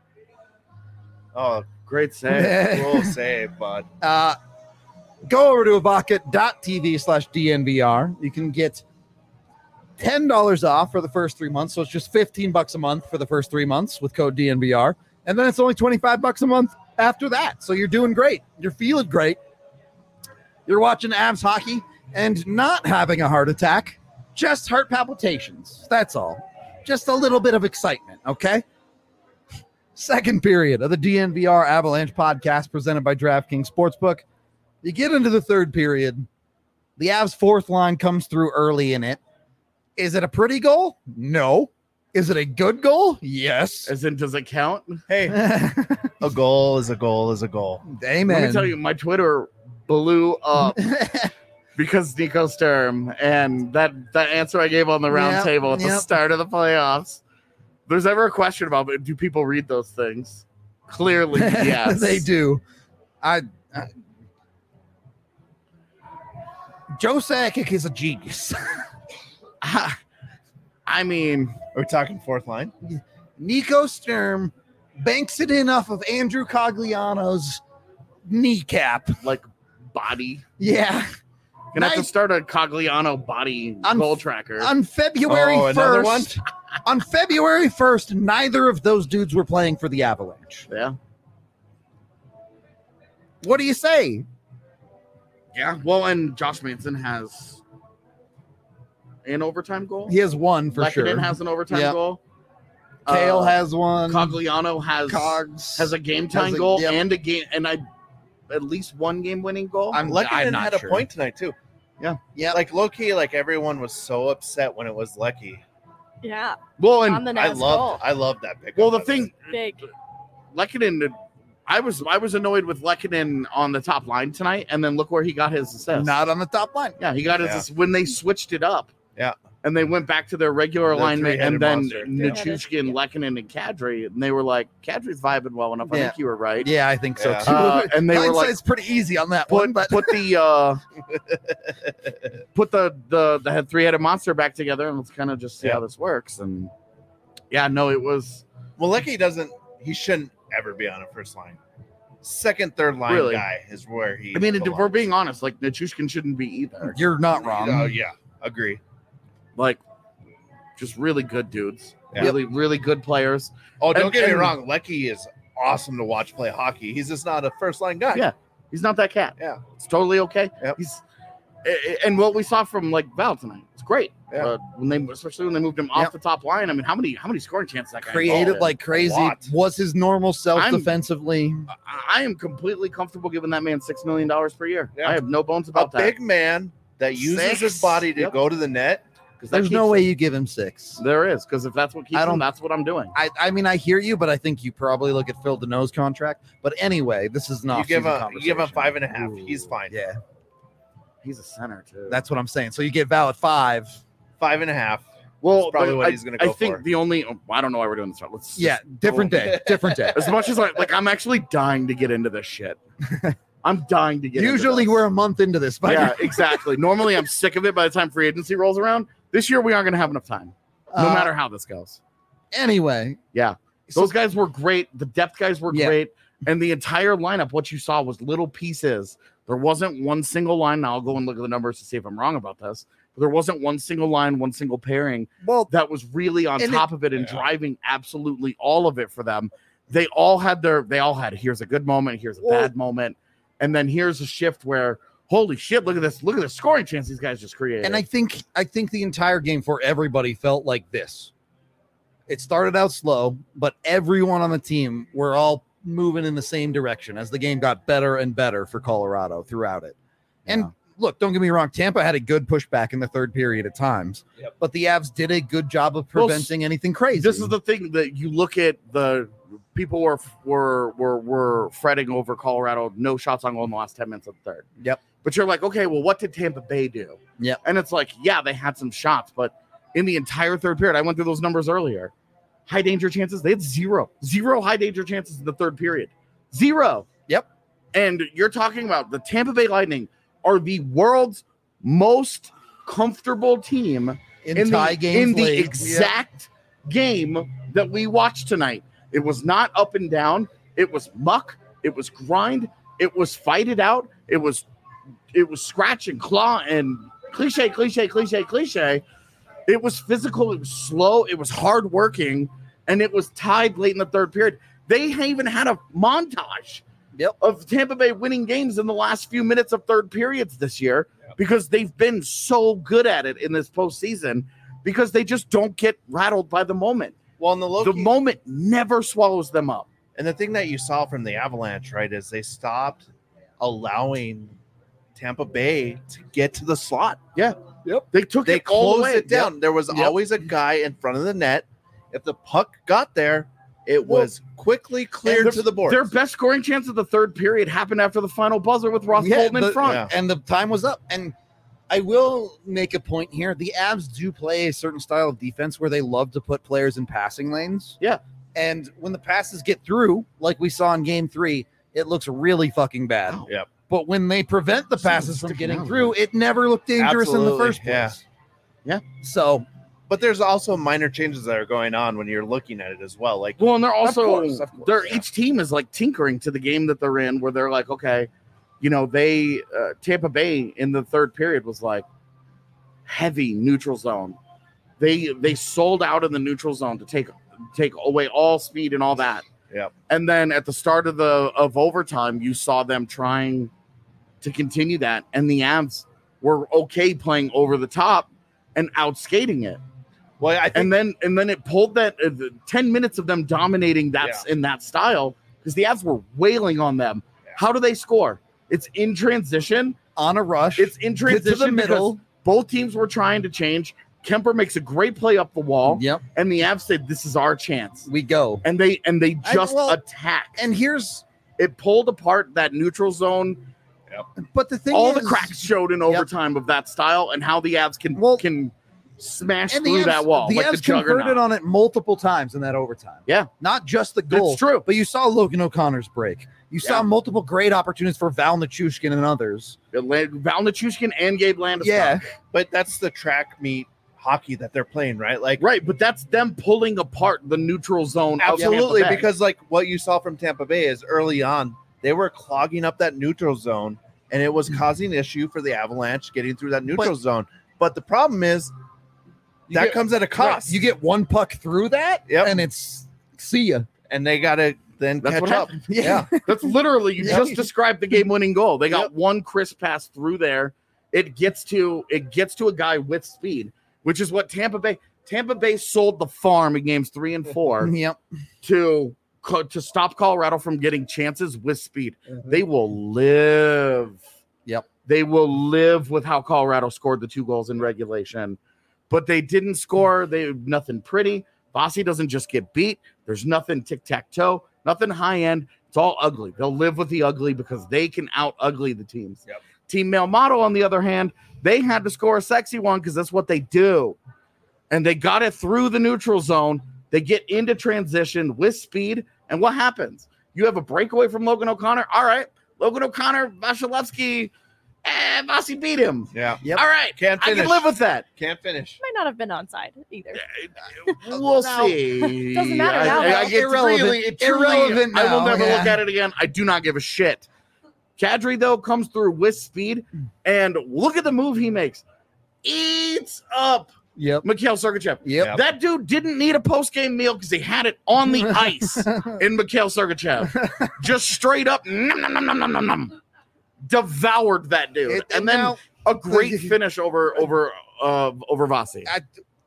oh, Great save. cool save, bud. Uh, go over to avaka.tv slash DNVR. You can get ten dollars off for the first three months. So it's just fifteen bucks a month for the first three months with code D N V R. And then it's only twenty-five bucks a month after that. So you're doing great. You're feeling great. You're watching Avs hockey and not having a heart attack, just heart palpitations. That's all. Just a little bit of excitement, okay? Second period of the D N V R Avalanche podcast presented by DraftKings Sportsbook. You get into the third period. The Avs' fourth line comes through early in it. Is it a pretty goal? No. Is it a good goal? Yes. As in, does it count? Hey, a goal is a goal is a goal. Amen. Let me tell you, my Twitter blew up because Nico Sturm and that that answer I gave on the round Yep, table at the yep. start of the playoffs. If there's ever a question about it, do people read those things? Clearly, yes. they do. I, I Joe Sakic is a genius. I mean, Are we talking fourth line? Nico Sturm banks it in off of Andrew Cogliano's kneecap. like body. Yeah. Gonna have to Nice. start a Cogliano body On- goal tracker. On February Oh, another first, on February first, neither of those dudes were playing for the Avalanche. yeah, What do you say? yeah. Well, and Josh Manson has an overtime goal. He has one for Lehkonen sure. has an overtime Yep. goal. Kale Uh, has one. Cogliano has Cogs has a game time has a- goal yep. and a game and I at least one game winning goal. I'm, Lehkonen I'm not had sure. a point tonight too. Yeah. Like low key, like everyone was so upset when it was Lecky. Yeah, well, on and the I nose loved, goal. I loved that pick. well, the thing, Big. Lehkonen, I was I was annoyed with Lehkonen on the top line tonight, and then look where he got his assist. Not on the top line. yeah, he got his Yeah. assist when they switched it up. Yeah. And they went back to their regular The alignment, three-headed and then monster. Yeah. Nichushkin, Yeah. Lehkonen, and Kadri, and they were like, Kadri's vibing well enough. I Yeah. think you were right. Yeah, I think so Yeah. too. Uh, and they were like, Hindsight's pretty easy on that one, put but put the uh put the the the head three-headed monster back together, and let's kind of just see Yeah. how this works. And yeah, no, it was Well, Lecky doesn't. He shouldn't ever be on a first line. Second, third line Really? guy is where he. I mean, if we're belongs. being honest, like Nichushkin shouldn't be either. you're not wrong. Oh yeah, agree. Like, just really good dudes, Yeah. really really good players. Oh, don't And- get me and- wrong. Lecky is awesome to watch play hockey. He's just not a first line guy. Yeah. He's not that cat. Yeah. It's totally okay. Yep. He's a- a- and what we saw from like Val tonight, it's great. Yeah. Uh, when they especially when they moved him off Yep. the top line. I mean, how many how many scoring chances that guy Created involved in? like crazy. lot. Was his normal self I'm- defensively? I I am completely comfortable giving that man six million dollars per year. Yeah. I have no bones A about that. big man that uses Six. his body to Yep. go to the net. 'Cause that There's keeps no way him- you give him six. There is, because if that's what keeps I don't- him, that's what I'm doing. I, I mean, I hear you, but I think you probably look at Phil Deneau's contract. But anyway, this is not. You give him, you give him five and a half. He's fine. Yeah, He's a center too. that's what I'm saying. So you get Val at five. Five and a half. well, That's probably but what I, he's gonna I go think for. the only oh, I don't know why we're doing this. Let's just- Yeah, different day. Different day. As much as I like, I'm actually dying to get into this shit. I'm dying to get into Usually this. we're a month into this. By Yeah, exactly. Normally I'm sick of it by the time free agency rolls around. This year we aren't going to have enough time, no Uh, matter how this goes. Anyway. Yeah. So- Those guys were great. The depth guys were Yeah. great. And the entire lineup, what you saw was little pieces. There wasn't one single line. Now I'll go and look at the numbers to see if I'm wrong about this. But there wasn't one single line, one single pairing Well, that was really on And top of it and yeah. driving absolutely all of it for them. They all had their, they all had, here's a good moment, here's a Well- bad moment. And then here's a shift where, holy shit, look at this. Look at the scoring chance these guys just created. and I think I think the entire game for everybody felt like this. It started out slow, but everyone on the team were all moving in the same direction as the game got better and better for Colorado throughout it. And Yeah. look, don't get me wrong, Tampa had a good pushback in the third period at times, Yep. but the Avs did a good job of Well, preventing anything crazy. This is the thing that you look at the people were were were were fretting over Colorado, no shots on goal in the last ten minutes of the third. Yep. But you're like, okay, well, what did Tampa Bay do? Yep. And it's like, yeah, they had some shots, but in the entire third period, I went through those numbers earlier. High danger chances, they had zero, zero high danger chances in the third period. Zero. Yep. And you're talking about the Tampa Bay Lightning are the world's most comfortable team in, in tie the, games in the late. exact game that we watched tonight. It was not up and down. It was muck. It was grind. It was fight it out. It was it was scratch and claw and cliche, cliche, cliche, cliche. It was physical. It was slow. It was hard working, and it was tied late in the third period. They even had a montage Yep. of Tampa Bay winning games in the last few minutes of third periods this year because they've been so good at it in this postseason because they just don't get rattled by the moment. Well, in the Loki, The moment never swallows them up. and the thing that you saw from the Avalanche, right, is they stopped allowing Tampa Bay to get to the slot. They took They it all the closed way. it down. There was Yep. always a guy in front of the net. If the puck got there, it Well, was quickly cleared And to the board. Their best scoring chance of the third period happened after the final buzzer with Ross Yeah, Bolton the- in front. yeah. and the time was up. And I will make a point here. The Avs do play a certain style of defense where they love to put players in passing lanes. Yeah. And when the passes get through, like we saw in game three, it looks really fucking bad. Oh. Yep. But when they prevent the So passes from freaking getting out, through, it never looked dangerous in the Absolutely, first place. yeah. Yeah. So But there's also minor changes that are going on when you're looking at it as well. Like, Well, and they're also course, of course, they're yeah. each team is like tinkering to the game that they're in, where they're like, okay, you know, they uh, Tampa Bay in the third period was like heavy neutral zone. They they sold out in the neutral zone to take take away all speed and all that. Yep. And then at the start of the of overtime, you saw them trying to continue that, and the Avs were okay playing over the top and outskating it. well, I think And then and then it pulled that uh, the ten minutes of them dominating that in that style because the Avs were wailing on them. Yeah. How do they score? It's in transition. on a rush, It's in get to the transition middle. because both teams were trying to change. Kemper makes a great play up the wall, Yep, and the Avs said, "This is our chance." we go. And they and they I- just well, attacked. And here's, It pulled apart that neutral zone. but the thing All is, the cracks showed in overtime of that style and how the Avs can Well, can smash and the through Avs, that wall the like the Avs converted juggernaut. on it multiple times in that overtime. Yeah. Not just the goal. That's true. But you saw Logan O'Connor's break. You saw Yeah. multiple great opportunities for Val Nichushkin and others. Val Nichushkin and Gabe Landeskog. Yeah. but that's the track meet hockey that they're playing, right? Like, Right, but that's them pulling apart the neutral zone. of absolutely, Tampa Bay. because like what you saw from Tampa Bay is early on they were clogging up that neutral zone, and it was causing issue for the Avalanche getting through that neutral But- zone. But the problem is You that get- comes at a Right, cost. you get one puck through that, Yep. and it's see ya. and they got to then That's catch what up. happened. Yeah. That's literally you Yeah. just described the game-winning goal. They got Yep. one crisp pass through there. It gets to it gets to a guy with speed, which is what Tampa Bay Tampa Bay sold the farm in games three and four Yep. to co- to stop Colorado from getting chances with speed. Mhm. They will live. Yep. They will live with how Colorado scored the two goals in regulation, but they didn't score. They nothing pretty. Bossy doesn't just get beat. There's nothing tic tac toe, nothing high end. It's all ugly. They'll live with the ugly because they can out ugly the teams. Yep. Team Male Model, on the other hand, they had to score a sexy one because that's what they do. And they got it through the neutral zone. They get into transition with speed. And what happens? You have a breakaway from Logan O'Connor. All right, Logan O'Connor, Vasilevsky, and Vasi beat him. Yeah. Yep. All right. Can't I finish. can live with that. Can't finish. Might not have been onside either. We'll Now- see. Doesn't matter now, I, I, I, though. it's Irrelevant. really, it truly- Irrelevant I will now, never yeah. look at it again. I do not give a shit. Kadri, though, comes through with speed, and look at the move he makes. Eats up Yep. Mikhail Sergachev. Yep. That dude didn't need a post-game meal because he had it on the ice in Mikhail Sergachev. Just straight up, nom, nom, nom, nom, nom, nom, nom. Devoured that dude. It- and then now- a great finish over over uh, over Vasi. I,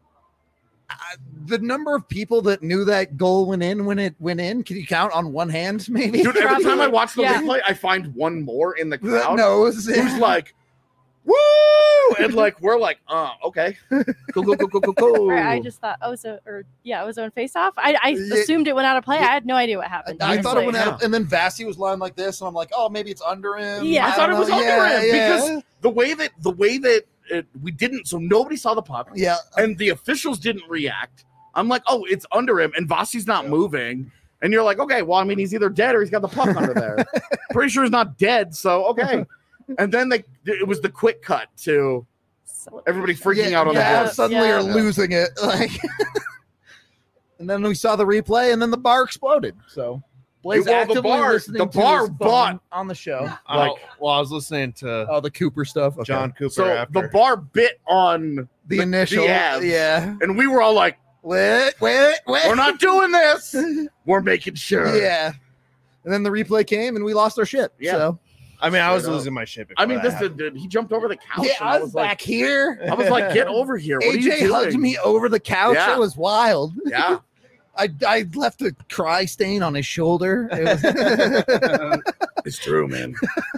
I, the number of people that knew that goal went in when it went in, can you count on one hand, maybe? Dude, every time I watch the Yeah. replay, I find one more in the that crowd knows. who's like, woo! And like, we're like, oh, okay. Cool, cool, cool, cool, cool, cool. Right, I just thought Ozone or yeah, Ozone face off. I, I Yeah. assumed it went out of play. Yeah. I had no idea what happened. I thought it honestly. went out, of, and then Vasi was lying like this, and I'm like, oh, maybe it's under him. Yeah. I thought it don't was know. under Yeah, him yeah. because the way that the way that it, we didn't, so nobody saw the puck, yeah, and the officials didn't react. I'm like, oh, it's under him, and Vasi's not moving. And you're like, okay, well, I mean, he's either dead or he's got the puck under there. Pretty sure he's not dead, so okay. And then they, it was the quick cut to everybody freaking yeah, out on yeah, the ice. suddenly Yeah. are losing it. Like, and then we saw the replay, and then the bar exploded. So Blaze Well, the actively bar- listening the to bar his phone bought- on the show. Oh, Like- well, I was listening to Oh, the Cooper stuff. Okay. John Cooper So after. the bar bit on, the initial. the abs. Yeah. and we were all like, Wait, wait, wait. we're not doing this. We're making sure. Yeah. And then the replay came, and we lost our shit. Yeah. So I mean, I was Straight up. losing my shit. I mean, before this that dude, dude, he jumped over the couch. yeah, and I was, like, back here. I was like, get over here. What are you A J doing? hugged me over the couch. Yeah. It was wild. Yeah. I, I left a cry stain on his shoulder. It was- It's true, man.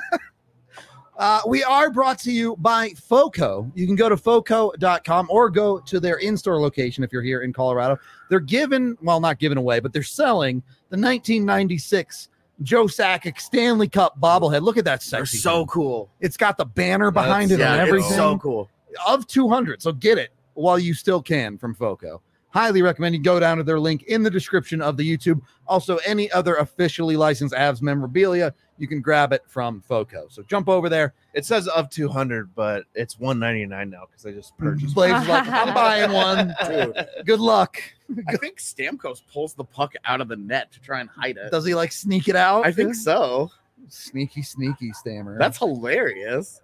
uh, we are brought to you by FOCO. You can go to foco dot com or go to their in-store location if you're here in Colorado. They're giving, well, not giving away, but they're selling the nineteen ninety-six Joe Sakic Stanley Cup bobblehead. Look at that They're sexy so thing. cool. It's got the banner behind That's- it and Yeah, everything. it's so cool. Of two hundred. So get it while you still can from FOCO. Highly recommend you go down to their link in the description of the YouTube. Also, any other officially licensed Avs memorabilia, you can grab it from FOCO. So jump over there. It says of two hundred, but it's one ninety-nine now because I just purchased. Blaze is like, I'm buying one. Dude, Good luck. I think Stamkos pulls the puck out of the net to try and hide it. Does he like sneak it out? I think so. Sneaky, sneaky stammer. That's hilarious.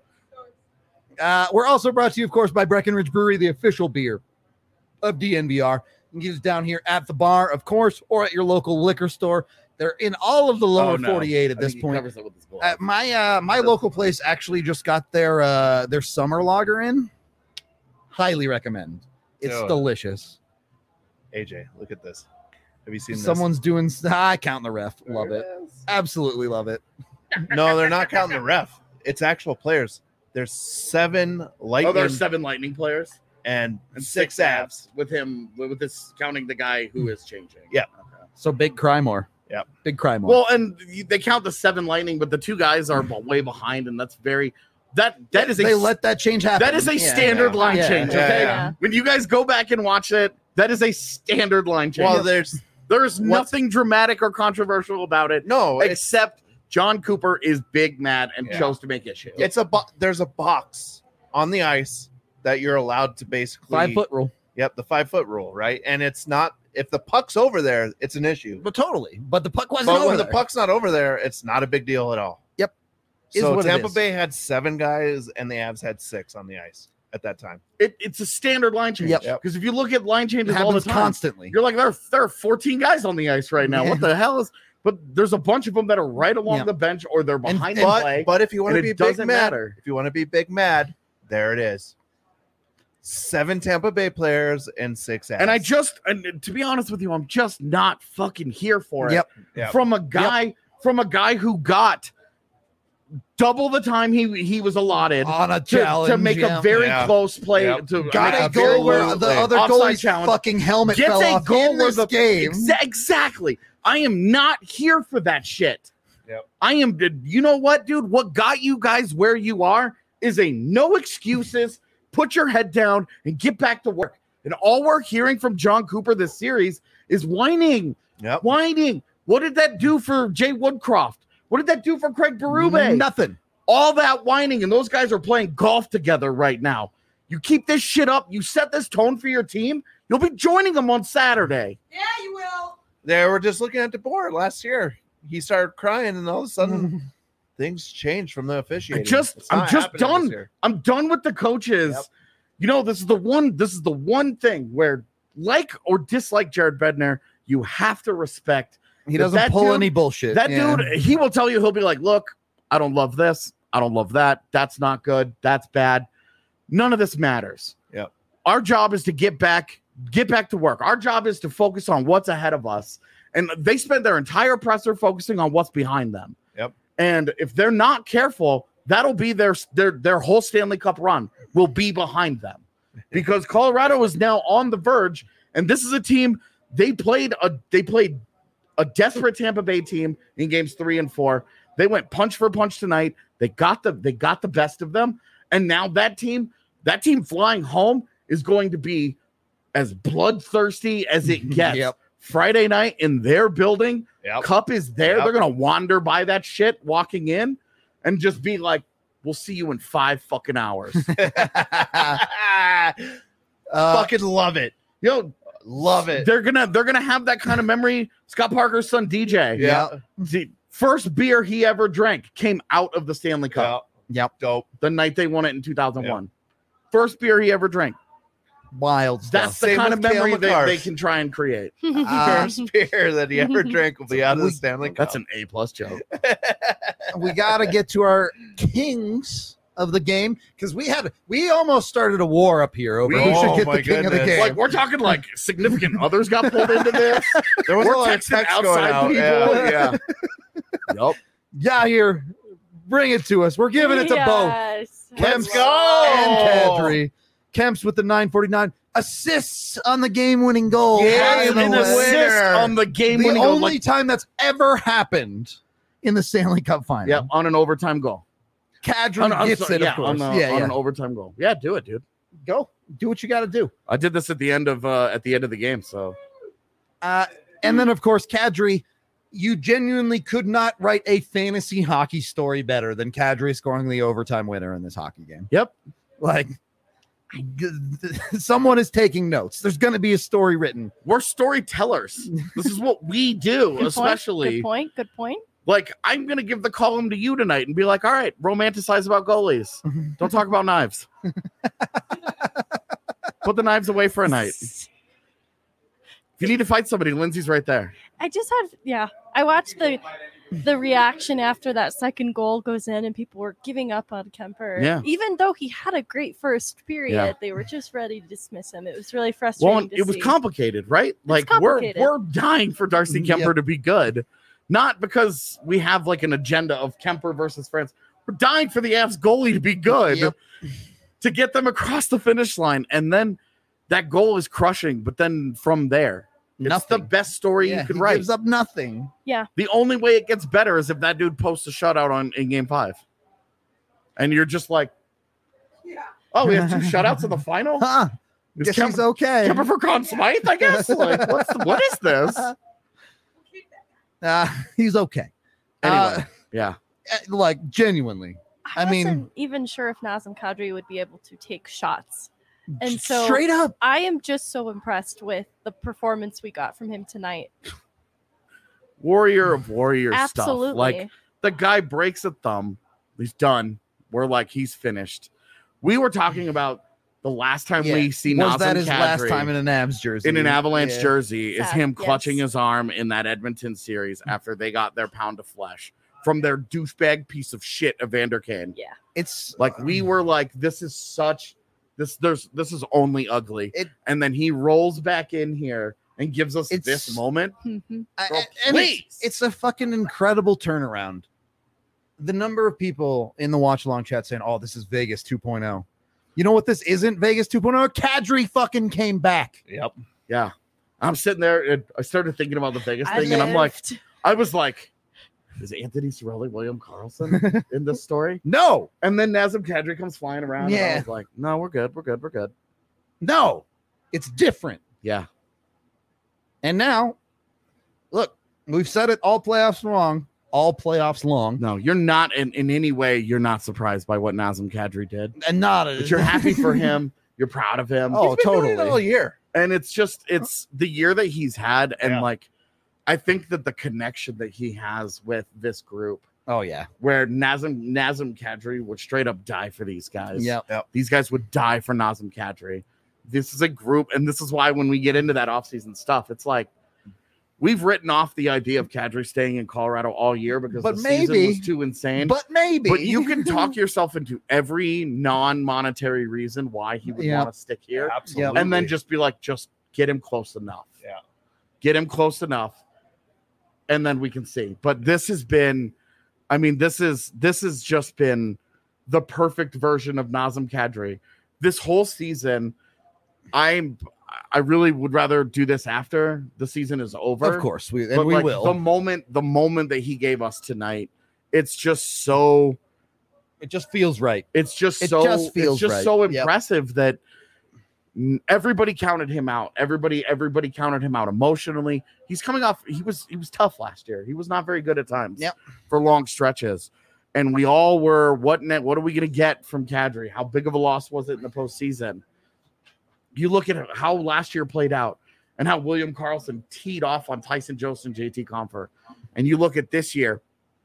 Uh, we're also brought to you, of course, by Breckenridge Brewery, the official beer of D N V R. You can get us down here at the bar, of course, or at your local liquor store. They're in all of the lower Oh, no. forty-eight at I this think he point. covers it with his glove. Uh, my uh, my local place actually just got their uh, their summer lager in. Highly recommend. It's Dude. delicious. A J, look at this. Have you seen Someone's doing. I count the ref. Love it. Absolutely love it. this? No, they're not counting the ref. It's actual players. There's seven Oh, lightning there's seven Lightning players and, and six, six abs. abs with him. With this counting the guy who is changing. Yeah. Okay. So big cry more. Yep. Big cry more. Well, and you- they count the seven Lightning, but the two guys are way behind, and that's very that that is a they let that change happen. that is a Yeah. standard yeah. line Yeah. change. Yeah, Okay, yeah. when you guys go back and watch it, that is a standard line change. Well, there's there is what's- nothing dramatic or controversial about it, no. It's, except John Cooper is big mad and Yeah. chose to make issue. it's a bo- there's a box on the ice that you're allowed to basically Five foot rule. Yep, the five foot rule, right? And it's not if the puck's over there, it's an issue. But totally. But the puck wasn't But over when the there. puck's not over there, it's not a big deal at all. Yep. Is So what it Tampa is. Bay had seven guys, and the Avs had six on the ice at that time. It, it's a standard line change. Yep. Because if you look at line It changes all the happens time, constantly. you're like, there, there are fourteen guys on the ice right now. Yeah. What the hell is? But there's a bunch of them that are right along Yeah. the bench or they're behind the But, play. but if you want and to it be big doesn't mad, matter. if you want to be big mad, there it is. Seven Tampa Bay players and six Avs. And I just, and to be honest with you, I'm just not fucking here for it. Yep. Yep. From a guy, from a guy who got double the time he he was allotted On a to, challenge. to make yeah. a very Yeah. close play. Yep. To Got make a a very goal where low the play. other Offside goalie's challenge. fucking helmet Gets fell a off goal in where this the game. Exa- exactly. I am not here for that shit. Yep. I am. You know what, dude? What got you guys where you are is a no excuses. Put your head down and get back to work. And all we're hearing from John Cooper this series is whining, Yep. whining. What did that do for Jay Woodcroft? What did that do for Craig Berube? Nothing. All that whining, and those guys are playing golf together right now. You keep this shit up, you set this tone for your team, you'll be joining them on Saturday. Yeah, you will. They were just looking at DeBoer last year. He started crying, and all of a sudden, things changed from the officiating. I just, It's I'm not just happening this done. year. I'm done with the coaches. Yep. You know, this is the one. This is the one thing where, like or dislike Jared Bednar, you have to respect. He that doesn't that pull dude- any bullshit. That Yeah. dude, he will tell you. He'll be like, "Look, I don't love this. I don't love that. That's not good. That's bad. None of this matters. Yep. Our job is to get back, get back to work. Our job is to focus on what's ahead of us." And they spend their entire presser focusing on what's behind them. Yep. And if they're not careful, that'll be their their their whole Stanley Cup run will be behind them, because Colorado is now on the verge. And this is a team they played a they played a desperate Tampa Bay team in games three and four. They went punch for punch tonight. They got the they got the best of them, and now that team that team flying home is going to be as bloodthirsty as it gets. Yep. Friday night in their building, Yep. Cup is there. Yep. They're gonna wander by that shit walking in, and just be like, "We'll see you in five fucking hours." Uh, Fucking love it. Yo, Love it. they're gonna they're gonna have that kind of memory. Scott Parker's son D J. Yeah. The first beer he ever drank came out of the Stanley Cup Yep. Dope. the night they won it in two thousand one. First beer he ever drank. wild stuff. That's the Same kind of with Cale memory that McCarr. they can try and create. Uh, First beer that he ever drank will be out of the Stanley Cup. That's an A plus joke. we got to get to our kings of the game, because we had we almost started a war up here over We- who should Oh get my the king of the goodness. game. Like, we're talking like significant others got pulled into this. There was We're a lot of texting text going outside out. people. Yeah. Yeah. Yup. yeah, here, bring it to us. We're giving it to both. Yes. Kemp's Let's go. and Kadri. Kemp's with the nine forty-nine assists on the game-winning goal. Yeah, Has An an the assist. assist winner. on the game The winning only goal. Like, time that's ever happened in the Stanley Cup final. yeah, on an overtime goal. Kadri On, I'm gets sorry, it, yeah, of course. on, a- yeah, on yeah. an overtime goal. Yeah, do it, dude. Go. Do what you got to do. I did this at the end of uh, at the end of the game. So Uh, and then, of course, Kadri, you genuinely could not write a fantasy hockey story better than Kadri scoring the overtime winner in this hockey game. Yep. Like, g- someone is taking notes. There's going to be a story written. we're storytellers. This is what we do, Good point, especially Good point. Good point. like I'm gonna give the column to you tonight and be like, all right, romanticize about goalies. Don't talk about knives. Put the knives away for a night. If you need to fight somebody, Lindsay's right there. I just had, yeah. I watched the the reaction after that second goal goes in, and people were giving up on Kemper. Yeah. Even though he had a great first period, Yeah. they were just ready to dismiss him. It was really frustrating. Well, to it was see. complicated, right? Like we're complicated. we're dying for Darcy Yep. Kemper to be good, not because we have like an agenda of Kemper versus France. We're dying for the Avs goalie to be good, Yep. to get them across the finish line, and then that goal is crushing. But then from there, it's the Nothing. best story Yeah, you could he write. gives up nothing. The only way it gets better is if that dude posts a shutout on in game five. And you're just like, oh, we have two shutouts in the final? Huh. Is Guess Kemper, he's okay. Kemper for Conn Smythe, I guess? Like, what's what is this? Uh, he's okay. Anyway, Uh, yeah. uh, like, genuinely. I, I mean- wasn't even sure if Nazem Kadri would be able to take shots. And so Straight up. I am just so impressed with the performance we got from him tonight. Warrior of warrior Absolutely. stuff. Like, the guy breaks a thumb. He's done. We're like, he's finished. We were talking about the last time Yeah. we see Was Nazem that his last Kadri time in an Avs jersey? in an Avalanche Yeah. jersey is Sad, him yes. clutching his arm in that Edmonton series after they got their pound of flesh from their douchebag piece of shit Evander Kane. Yeah. It's Like, we were like, this is such this there's this is only ugly. It- and then he rolls back in here and gives us It's- this moment. Mhm. I- Bro, I- and please. it's, it's a fucking incredible turnaround. The number of people in the watch along chat saying, "Oh, this is Vegas 2.0." You know what this isn't? Vegas 2.0. Kadri fucking came back. Yep. Yeah. I'm sitting there and I started thinking about the Vegas I thing, and I'm like, lived. I was like, is Anthony Cirelli William Carlson in this story? No, And then Nazem Kadri comes flying around. And I Yeah. was like, no, we're good. We're good. We're good. no, it's different. Yeah. And now, look, we've said it all playoffs wrong. all playoffs long. No, you're not in, in any way. You're not surprised by what Nazem Kadri did. And not a, But you're happy for him. You're proud of him. Oh, He's been doing it totally. all year. And it's just it's the year that he's had, and Yeah. like I think that the connection that he has with this group, Oh yeah. where Nazem Nazem Kadri would straight up die for these guys. Yeah. These guys would die for Nazem Kadri. This is a group, and this is why when we get into that offseason stuff, it's like we've written off the idea of Kadri staying in Colorado all year because But the maybe- season was too insane. But maybe. But you can talk yourself into every non-monetary reason why he would Yeah. want to stick here. Absolutely. And then just be like, just get him close enough. Yeah. Get him close enough. And then we can see. But this has been, I mean, this is this has just been the perfect version of Nazem Kadri. This whole season, I'm I really would rather do this after the season is over. Of course, we and But we like will. the moment, the moment that he gave us tonight, it's just so it just feels right. it's just It so just feels it's just right. so Yep. impressive that n- everybody counted him out. Everybody, everybody counted him out emotionally. He's coming off. He was he was tough last year. He was not very good at times. Yep. For long stretches, and we all were. What net? What are we going to get from Kadri? How big of a loss was it in the postseason? You look at how last year played out, and how William Karlsson teed off on Tyson Jost and J T Compher, and you look at this year.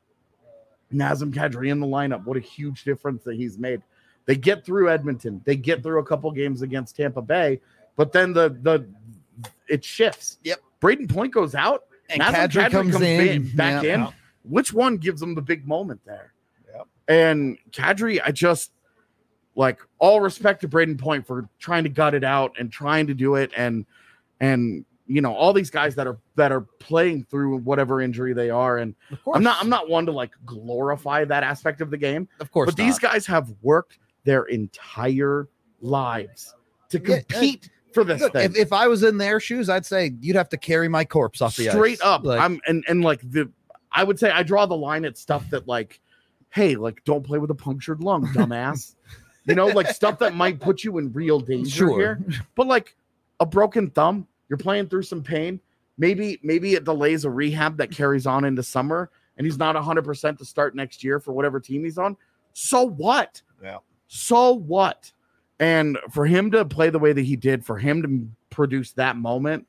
Nazem Kadri in the lineup. What a huge difference that he's made. They get through Edmonton. They get through a couple games against Tampa Bay, but then the the it shifts. Yep. Braden Point goes out, And Nazem Kadri comes in. back Yeah. in. Which one gives them the big moment there? Yep. And Kadri, I just like all respect to Braden Point for trying to gut it out and trying to do it, and and you know all these guys that are that are playing through whatever injury they are, and Of course. I'm not I'm not one to like glorify that aspect of the game, Of course. but these not. guys have worked their entire lives to Yeah, uh, compete for this Look, thing. if, if I was in their shoes, I'd say you'd have to carry my corpse off the Straight ice. up. Like, I'm and and like the I would say I draw the line at stuff that like, hey, like don't play with a punctured lung, dumbass. You know, like stuff that might put you in real danger Sure. here. But like a broken thumb, you're playing through some pain. Maybe maybe it delays a rehab that carries on into summer, and he's not one hundred percent to start next year for whatever team he's on. So what? Yeah. So what? And for him to play the way that he did, for him to produce that moment,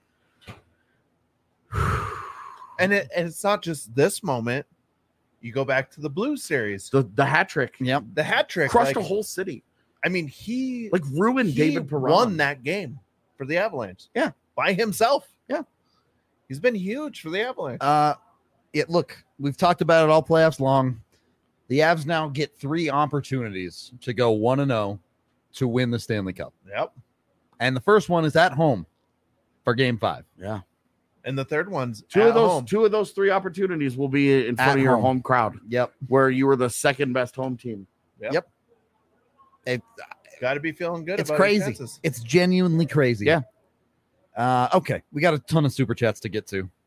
And it and it's not just this moment. You go back to the Blues series, the, the hat trick, Yep. the hat trick, crushed like, a whole city, I mean, he like ruined he David Perron. won that game for the Avalanche. Yeah. by himself. Yeah. He's been huge for the Avalanche. Uh, it look, we've talked about it all playoffs long. The Avs now get three opportunities to go one and zero to win the Stanley Cup, Yep. and the first one is at home for Game Five. Yeah. And the third one's Two at of those home. two of those three opportunities will be in front At of your home. home crowd, Yep, where you were the second best home team. it, Got to be feeling good. it's about his crazy. chances. It's genuinely crazy. Yeah. Uh, okay, we got a ton of super chats to get to.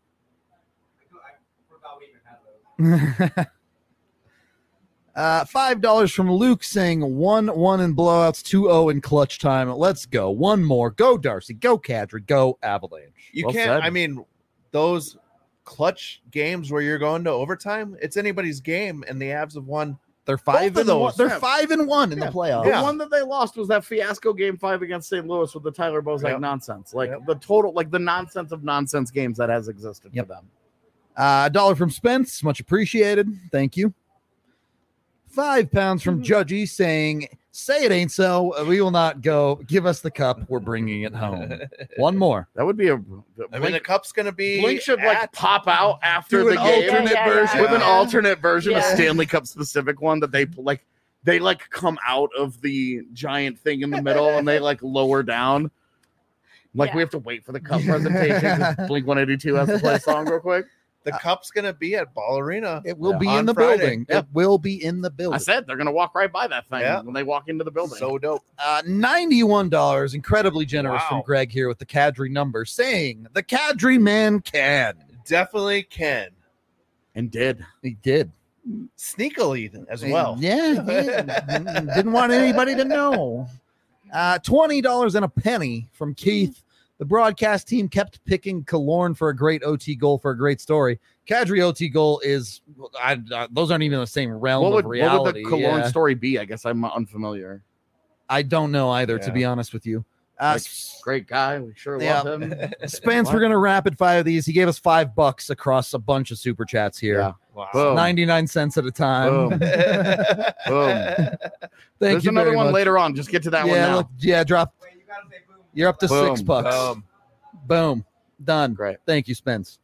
Uh, five dollars from Luke saying one one in blowouts, two oh in clutch time. Let's go. One more. Go Darcy. Go Kadri. Go Avalanche. You Well can't. said. I mean, those clutch games where you're going to overtime, it's anybody's game, and the Avs have won. They're five Both of and one. those, They're yeah. five and one in Yeah. the playoffs. The Yeah. one that they lost was that fiasco game five against Saint Louis with the Tyler Bozak Yep. nonsense. Like Yep. the total, like the nonsense of nonsense games that has existed Yep. for them. Uh, a dollar from Spence, much appreciated. Thank you. Five pounds from Judgy saying, "Say it ain't so. We will not go. Give us the cup. We're bringing it home." One more. That would be a. I mean, the Blink, cup's going to be. Blink should like at- pop out after Do the an game alternate Yeah, yeah, version. yeah. with an Yeah. alternate version, a Yeah. Stanley Cup specific one that they like. They like come out of the giant thing in the middle and they like lower down. Like Yeah. we have to wait for the cup presentation. 'Cause Blink one eighty-two has to play a song real quick. The cup's going to be at Ball Arena. It will Yeah. be On in the Friday. building. Yeah. It will be in the building. I said they're gonna walk right by that thing Yeah. when they walk into the building. So dope. Uh, ninety-one dollars, incredibly generous Wow. from Greg here with the Kadri number, saying the Kadri man can. Definitely can. and did. He did Sneakily as well. Yeah, he did. Didn't want anybody to know. Uh, twenty dollars and a penny from Keith. The broadcast team kept picking Killorn for a great O T goal for a great story. Kadri O T goal is I, I, those aren't even the same realm What would, of reality. what would the Cologne yeah. story be? I guess I'm unfamiliar. I don't know either, to Yeah. be honest with you. Uh, Like, great guy. We sure Yeah. love him. Spence, What? we're gonna rapid fire these. He gave us five bucks across a bunch of super chats here. Yeah. Wow. Boom. ninety-nine cents at a time. Boom. Boom. Thank There's you another very one much. later on. Just get to that one yeah, now. look, yeah, drop. You're up to six Boom. bucks. Um, Boom. Done. Great. Thank you, Spence.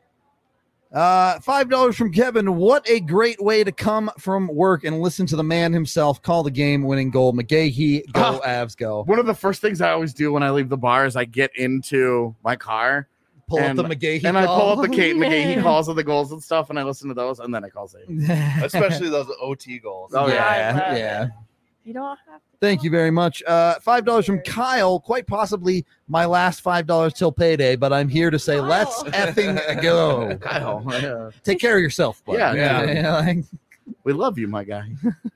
Uh, five dollars from Kevin. What a great way to come from work and listen to the man himself call the game-winning goal. McGahee, go Ah. Avs, go. One of the first things I always do when I leave the bar is I get into my car Pull and- up the McGahee and I pull call. up the Kate McGahee calls of the goals and stuff, and I listen to those, and then I call Zane. especially those O T goals. Oh, yeah, yeah. yeah. You don't have to. Thank you very much. Uh, five dollars from Kyle. Quite possibly my last five dollars till payday, but I'm here to say, Kyle. let's effing go. Kyle, yeah. Take care of yourself, bud. Yeah, yeah. like, we love you, my guy.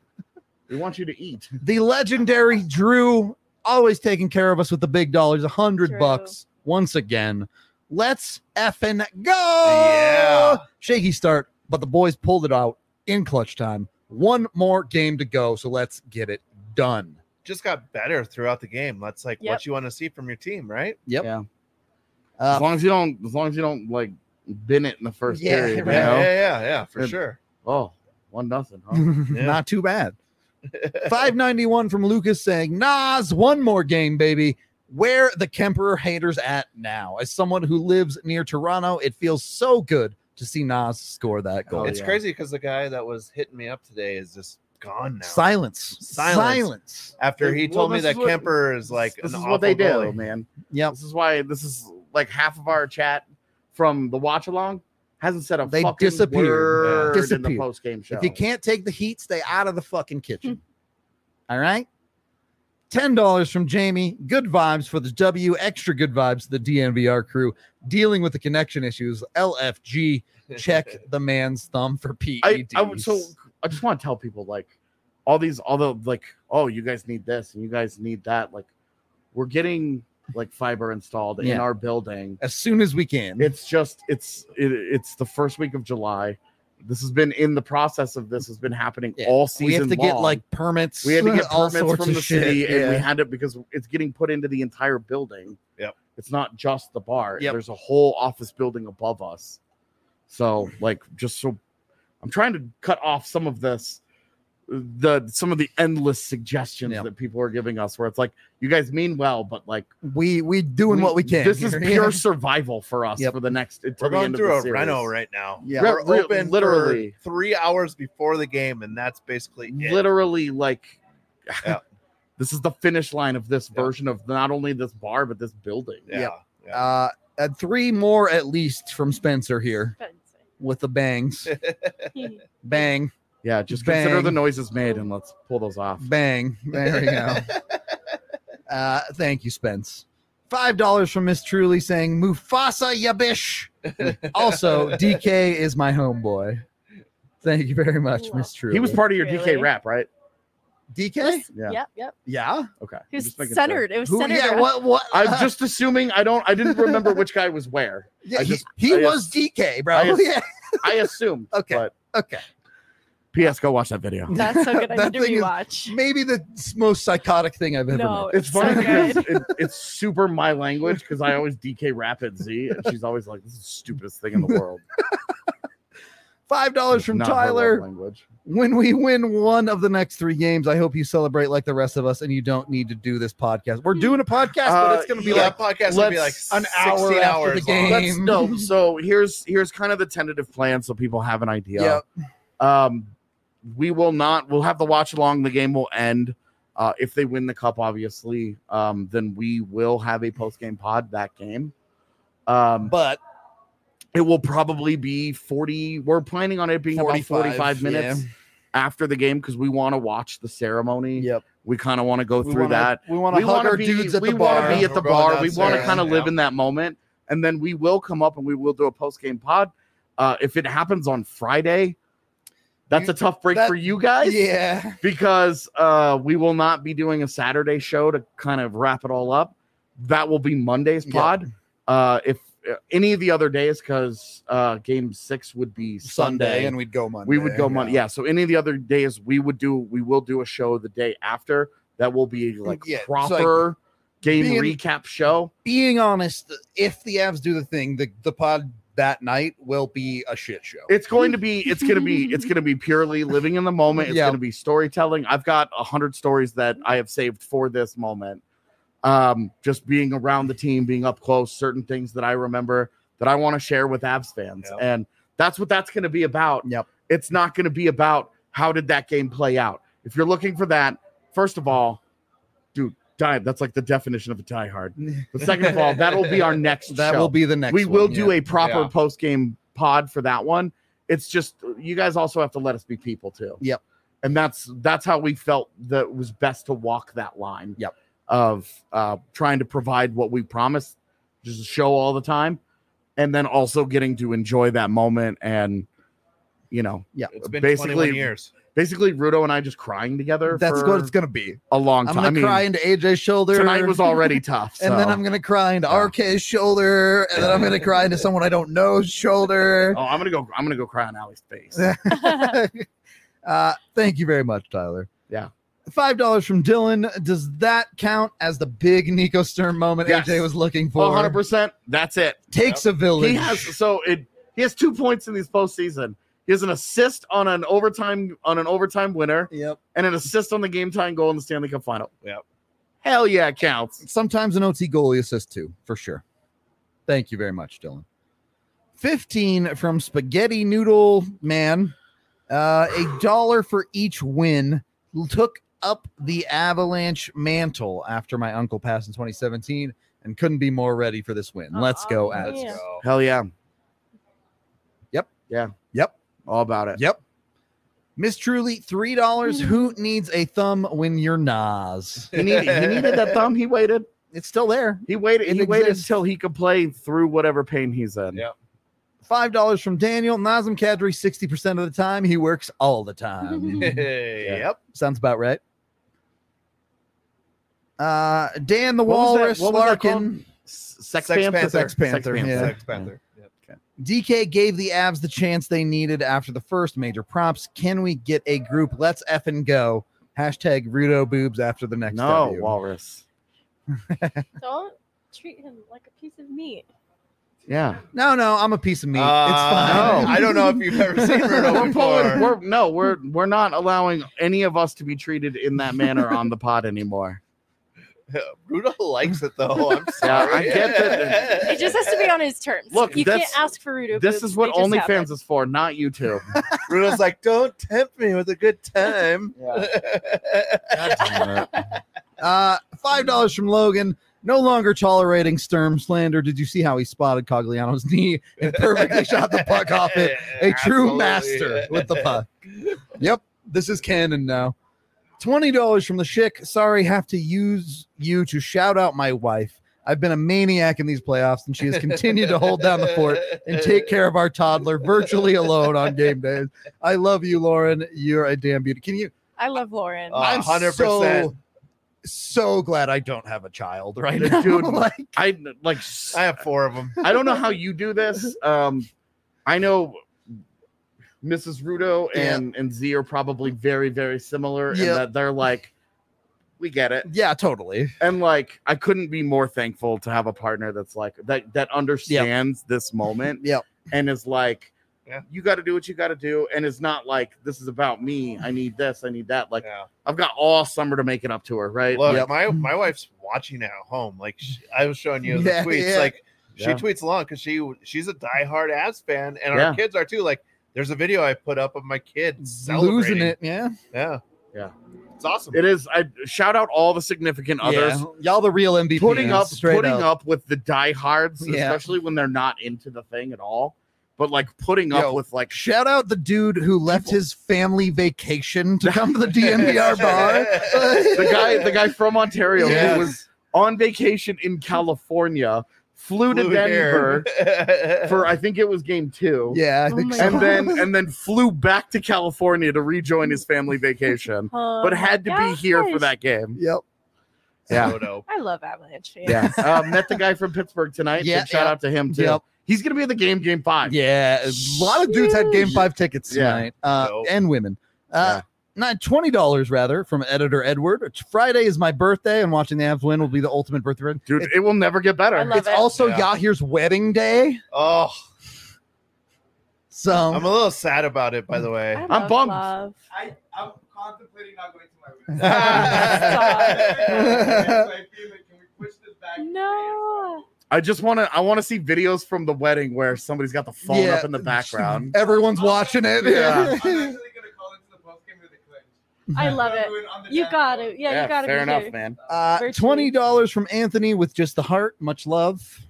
We want you to eat. the legendary Drew, always taking care of us with the big dollars, a hundred Drew. bucks once again. Let's effing go. Yeah. Shaky start, but the boys pulled it out in clutch time. One more game to go, so let's get it done. Just got better throughout the game. That's like Yep. what you want to see from your team, right? Yep. Yeah. Uh, As long as you don't, as long as you don't like bin it in the first Yeah, period. You right. Yeah, know? yeah, yeah, yeah, for Good. sure. Oh, one nothing. Huh? Yeah. Not too bad. five ninety-one from Lucas saying, Nas, one more game, baby. Where the Kemperer haters at now? As someone who lives near Toronto, it feels so good to see Nas score that goal. Oh, It's yeah. crazy because the guy that was hitting me up today is just gone now. Silence. Silence. Silence. After he Well, told me this that is what- Kemper is like this an is what they awful do, goalie. man. Yep. This is why this is like half of our chat from the watch along hasn't said a They fucking disappear. word in the Disappear. post game show. If you can't take the heat, stay out of the fucking kitchen. All right. ten dollars from Jamie. Good vibes for the W. Extra good vibes to the D N V R crew. Dealing with the connection issues. L F G. Check the man's thumb for P E I, Ds. I would- so I just want to tell people like all these, all the like, oh, you guys need this and you guys need that. Like, we're getting like fiber installed in Yeah. our building. as soon as we can. It's just it's it, it's the first week of July. This has been in the process of this has been happening Yeah. all season. we have to get long. like permits. we had to get all permits sorts from of the shit. city, and we Yeah. had it because it's getting put into the entire building. Yep. It's not just the bar. Yep. There's a whole office building above us. So, like, just so I'm trying to cut off some of this, the some of the endless suggestions Yep. that people are giving us, where it's like, you guys mean well, but like, we we doing what we can. This is here. pure Yeah. survival for us Yep. for the next. We're going through a reno right now. Yeah. We're Re- re- open literally. for three hours before the game, and that's basically it. Literally, like, Yeah. this is the finish line of this Yeah. version of not only this bar but this building. Yeah. Yep. yeah. Uh, and three more at least from Spencer here with the bangs. Bang, Yeah, just Bang. consider the noises made and let's pull those off. bang. There we go. Uh, thank you, Spence. Five dollars from Miss Truly saying Mufasa Yabish. Also, D K is my homeboy. Thank you very much, Miss Truly. He was part of your D K Really? rap, right? D K. Yeah. Yep, yep. Yeah. Okay. He I'm was just making centered. sure. It was Who? centered. Yeah. around- What? What? I'm just assuming. I don't. I didn't remember which guy was where. Yeah, I he, just- he I was ass- D K, bro. I ass- yeah. I assumed. Okay. But Okay. P S. Go watch that video. That's so good. I That need to thing is- rewatch. Maybe the s- most psychotic thing I've ever No, met. It's so funny because good. it, it's super my language because I always D K rap at Z and she's always like, "This is the stupidest thing in the world." Five dollars from Not her love Tyler. language. When we win one of the next three games, I hope you celebrate like the rest of us, and you don't need to do this podcast. We're doing a podcast, but Uh, it's going to be yeah, like podcast would be like let's- an hour sixteen after hours the long. game. Let's no. So here's here's kind of the tentative plan, so people have an idea. Yep. Um, we will not. We'll have to watch along. The game will end. Uh, if they win the cup, obviously, um, then we will have a post game pod that game. Um, but it will probably be forty. We're planning on it being about forty-five minutes yeah. after the game because we want to watch the ceremony. Yep. We kind of want to go We through wanna- that. We want to We hug want our to be. dudes at we the want bar. to be at the We're going bar. We want to downstairs, kind of live yeah. in that moment, and then we will come up and we will do a post game pod. Uh, if it happens on Friday, that's You- a tough break that- for you guys. Yeah. Because uh, we will not be doing a Saturday show to kind of wrap it all up. That will be Monday's Yep. pod. Uh, if uh, any of the other days, because uh, game six would be Sunday, Sunday, and we'd go Monday. we would go Monday. Yeah. So any of the other days, we would do we will do a show the day after that will be like Yeah, so, proper like, game being- recap show. Being honest, if the Avs do the thing, the, the pod that night will be a shit show. It's going to be it's going to be it's going to be purely living in the moment. It's Yeah. going to be storytelling. I've got a hundred stories that I have saved for this moment. Um, just being around the team, being up close, certain things that I remember that I want to share with Avs fans. Yep. And that's what that's going to be about. Yep. It's not going to be about how did that game play out. If you're looking for that, first of all, dude, die. That's like the definition of a diehard. But second of all, that'll be our next that show. will be the next we one, will do yeah. a proper Yeah. post game pod for that one. It's just you guys also have to let us be people too. Yep. And that's that's how we felt that it was best to walk that line. Yep. Of uh, trying to provide what we promised, just a show all the time, and then also getting to enjoy that moment and you know, Yeah. It's been basically twenty-one years. basically Rudo and I just crying together. That's for what it's going to be. a long I'm time. going I to mean, cry into A J's shoulder. tonight was already tough. And then so- I'm going to cry into Yeah. R K's shoulder. And then I'm going to cry into someone I don't know's shoulder. Oh, I'm gonna go. I'm gonna go cry on Allie's face. uh, thank you very much, Tyler. Yeah. Five dollars from Dylan. Does that count as the big Nico Sturm moment Yes. A J was looking one for? hundred percent. That's it. Takes a village. He has so it. He has two points in these postseason. He has an assist on an overtime on an overtime winner Yep. and an assist on the game time goal in the Stanley Cup final. Yep. Hell yeah, it counts. Sometimes an O T goalie assist too, for sure. Thank you very much, Dylan. fifteen from Spaghetti Noodle Man. Uh, a dollar for each win. Took up the Avalanche mantle after my uncle passed in twenty seventeen and couldn't be more ready for this win. Let's go, Aw, Avs. yeah. So, Hell yeah. Yep. Yeah. Yep. All about it. Yep. Miss Truly, three dollars. Who needs a thumb when you're Nas? He needed, he needed that thumb. He waited. It's still there. He waited. It he waited exists. until he could play through whatever pain he's in. Yeah. Five dollars from Daniel. Nazem Kadri, sixty percent of the time. He works all the time. Yep. Sounds about right. Uh, Dan the What was that- Walrus what was that Larkin. called? S- Sex, Sex Panther. Panther. Sex Panther, yeah. Sex Panther. Yep. D K gave the Avs the chance they needed after the first major props. Can we get a group? Let's effing go. Hashtag Rudo boobs after the next No, W. Walrus. Don't treat him like a piece of meat. Yeah. No, no, I'm a piece of meat. Uh, it's fine. No. I don't know if you've ever seen Rudo We're before. pulling, we're, no, we're we're not allowing any of us to be treated in that manner on the pod anymore. Rudo likes it though. I'm Yeah, sorry. I get that. It just has to be on his terms. Look, you can't that's- ask for Rudo. This boobs. is what They just OnlyFans happen. is for, not YouTube. Rudo's like, don't tempt me with a good time. Uh, Five dollars from Logan. No longer tolerating Sturm slander. Did you see how he spotted Cogliano's knee and perfectly shot the puck off it? A true Absolutely. master with the puck. Yep, this is canon now. Twenty dollars from the Schick. Sorry, have to use you to shout out my wife. I've been a maniac in these playoffs, and she has continued to hold down the fort and take care of our toddler virtually alone on game days. I love you, Lauren. You're a damn beauty. Can you? I love Lauren. Uh, I'm one hundred percent. so, so glad I don't have a child right now. Dude, like, I like I have four of them. I don't know how you do this. Um, I know Missus Rudo and and Z are probably very very similar in Yep. that they're like, we get it, yeah, totally. and like I couldn't be more thankful to have a partner that's like that that understands this moment Yep. and is like, Yeah. you got to do what you got to do, and it's not like this is about me. I need this, I need that. Like Yeah. I've got all summer to make it up to her, right? Look, Yep. my my wife's watching at home. Like she, I was showing you the Yeah, tweets. yeah. Like she Yeah. tweets along because she she's a diehard Avs fan, and Yeah. our kids are too. Like there's a video I put up of my kids celebrating. Losing it, yeah. Yeah, Yeah. it's awesome. It is. I shout out all the significant others. Yeah. Y'all the real M V Ps. putting up straight putting up. up with the diehards, Yeah. especially when they're not into the thing at all. But like putting up Yo, with like Shout out the dude who left his family vacation to come to the D N V R bar. the guy, the guy from Ontario Yes. who was on vacation in California, flew to Flew Denver here. for I think it was game two. Yeah, I Oh think my so. And then and then flew back to California to rejoin his family vacation, Oh but my had to be here for gosh. that game. Yep. Yeah. So dope. I love Avalanche fans. Yeah. Uh, met the guy from Pittsburgh tonight. Yeah, Big shout yeah. out to him too. Yep. He's gonna be at the game, game five. Yeah, a lot of dudes had game five tickets Yeah. tonight, uh, Dope. and women. Uh, Not twenty dollars rather from editor Edward. It's Friday is my birthday, and watching the Avs win will be the ultimate birthday. It- Dude, it will never get better. I love it's it. also Yeah. Yahir's wedding day, Oh, so I'm a little sad about it, by the way. I I'm love bummed. love. I, I'm contemplating not going to my wedding. Can we push this back? No. I just want to. I want to see videos from the wedding where somebody's got the phone Yeah. up in the background. everyone's watching it. Yeah. I'm actually going to call into the post game with the clinch. I love it. You got it. Yeah, you got to fair be enough, here. man. Uh, Virtually. twenty dollars from Anthony with just the heart. Much love.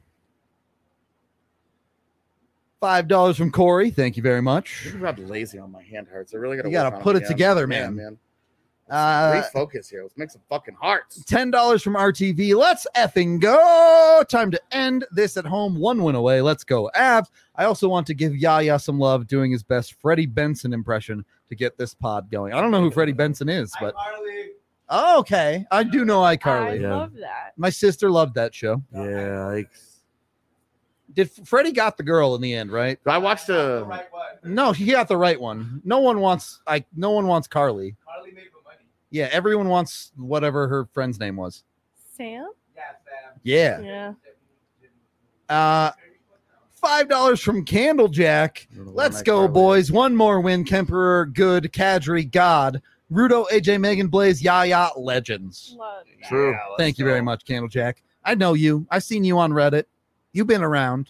Five dollars from Corey. Thank you very much. I'm about lazy on my hand hurts. I really got to. You gotta put it together, man. man. Uh, Refocus here. Let's make some fucking hearts. ten dollars from R T V. Let's effing go. Time to end this at home. One win away. Let's go, Avs. I also want to give Yaya some love doing his best Freddie Benson impression to get this pod going. I don't know who Freddie Benson is, but Harley. oh, okay. I do know I iCarly. Yeah. love that. My sister loved that show. Yeah, like Did Freddie got the girl in the end, right? I watched The a. right one. No, he got the right one. No one wants like no one wants Carly. Harley made the money. Yeah, everyone wants whatever her friend's name was. Sam? Yeah, Sam. Yeah. Yeah. Uh five dollars from Candlejack. Let's go, boys. One more win. Kemperer, good. Kadri, God. Rudo, A J, Megan, Blaze, Yaya, legends. Love that. True. Yeah, let's Thank you go. very much, Candlejack. I know you. I've seen you on Reddit. You've been around.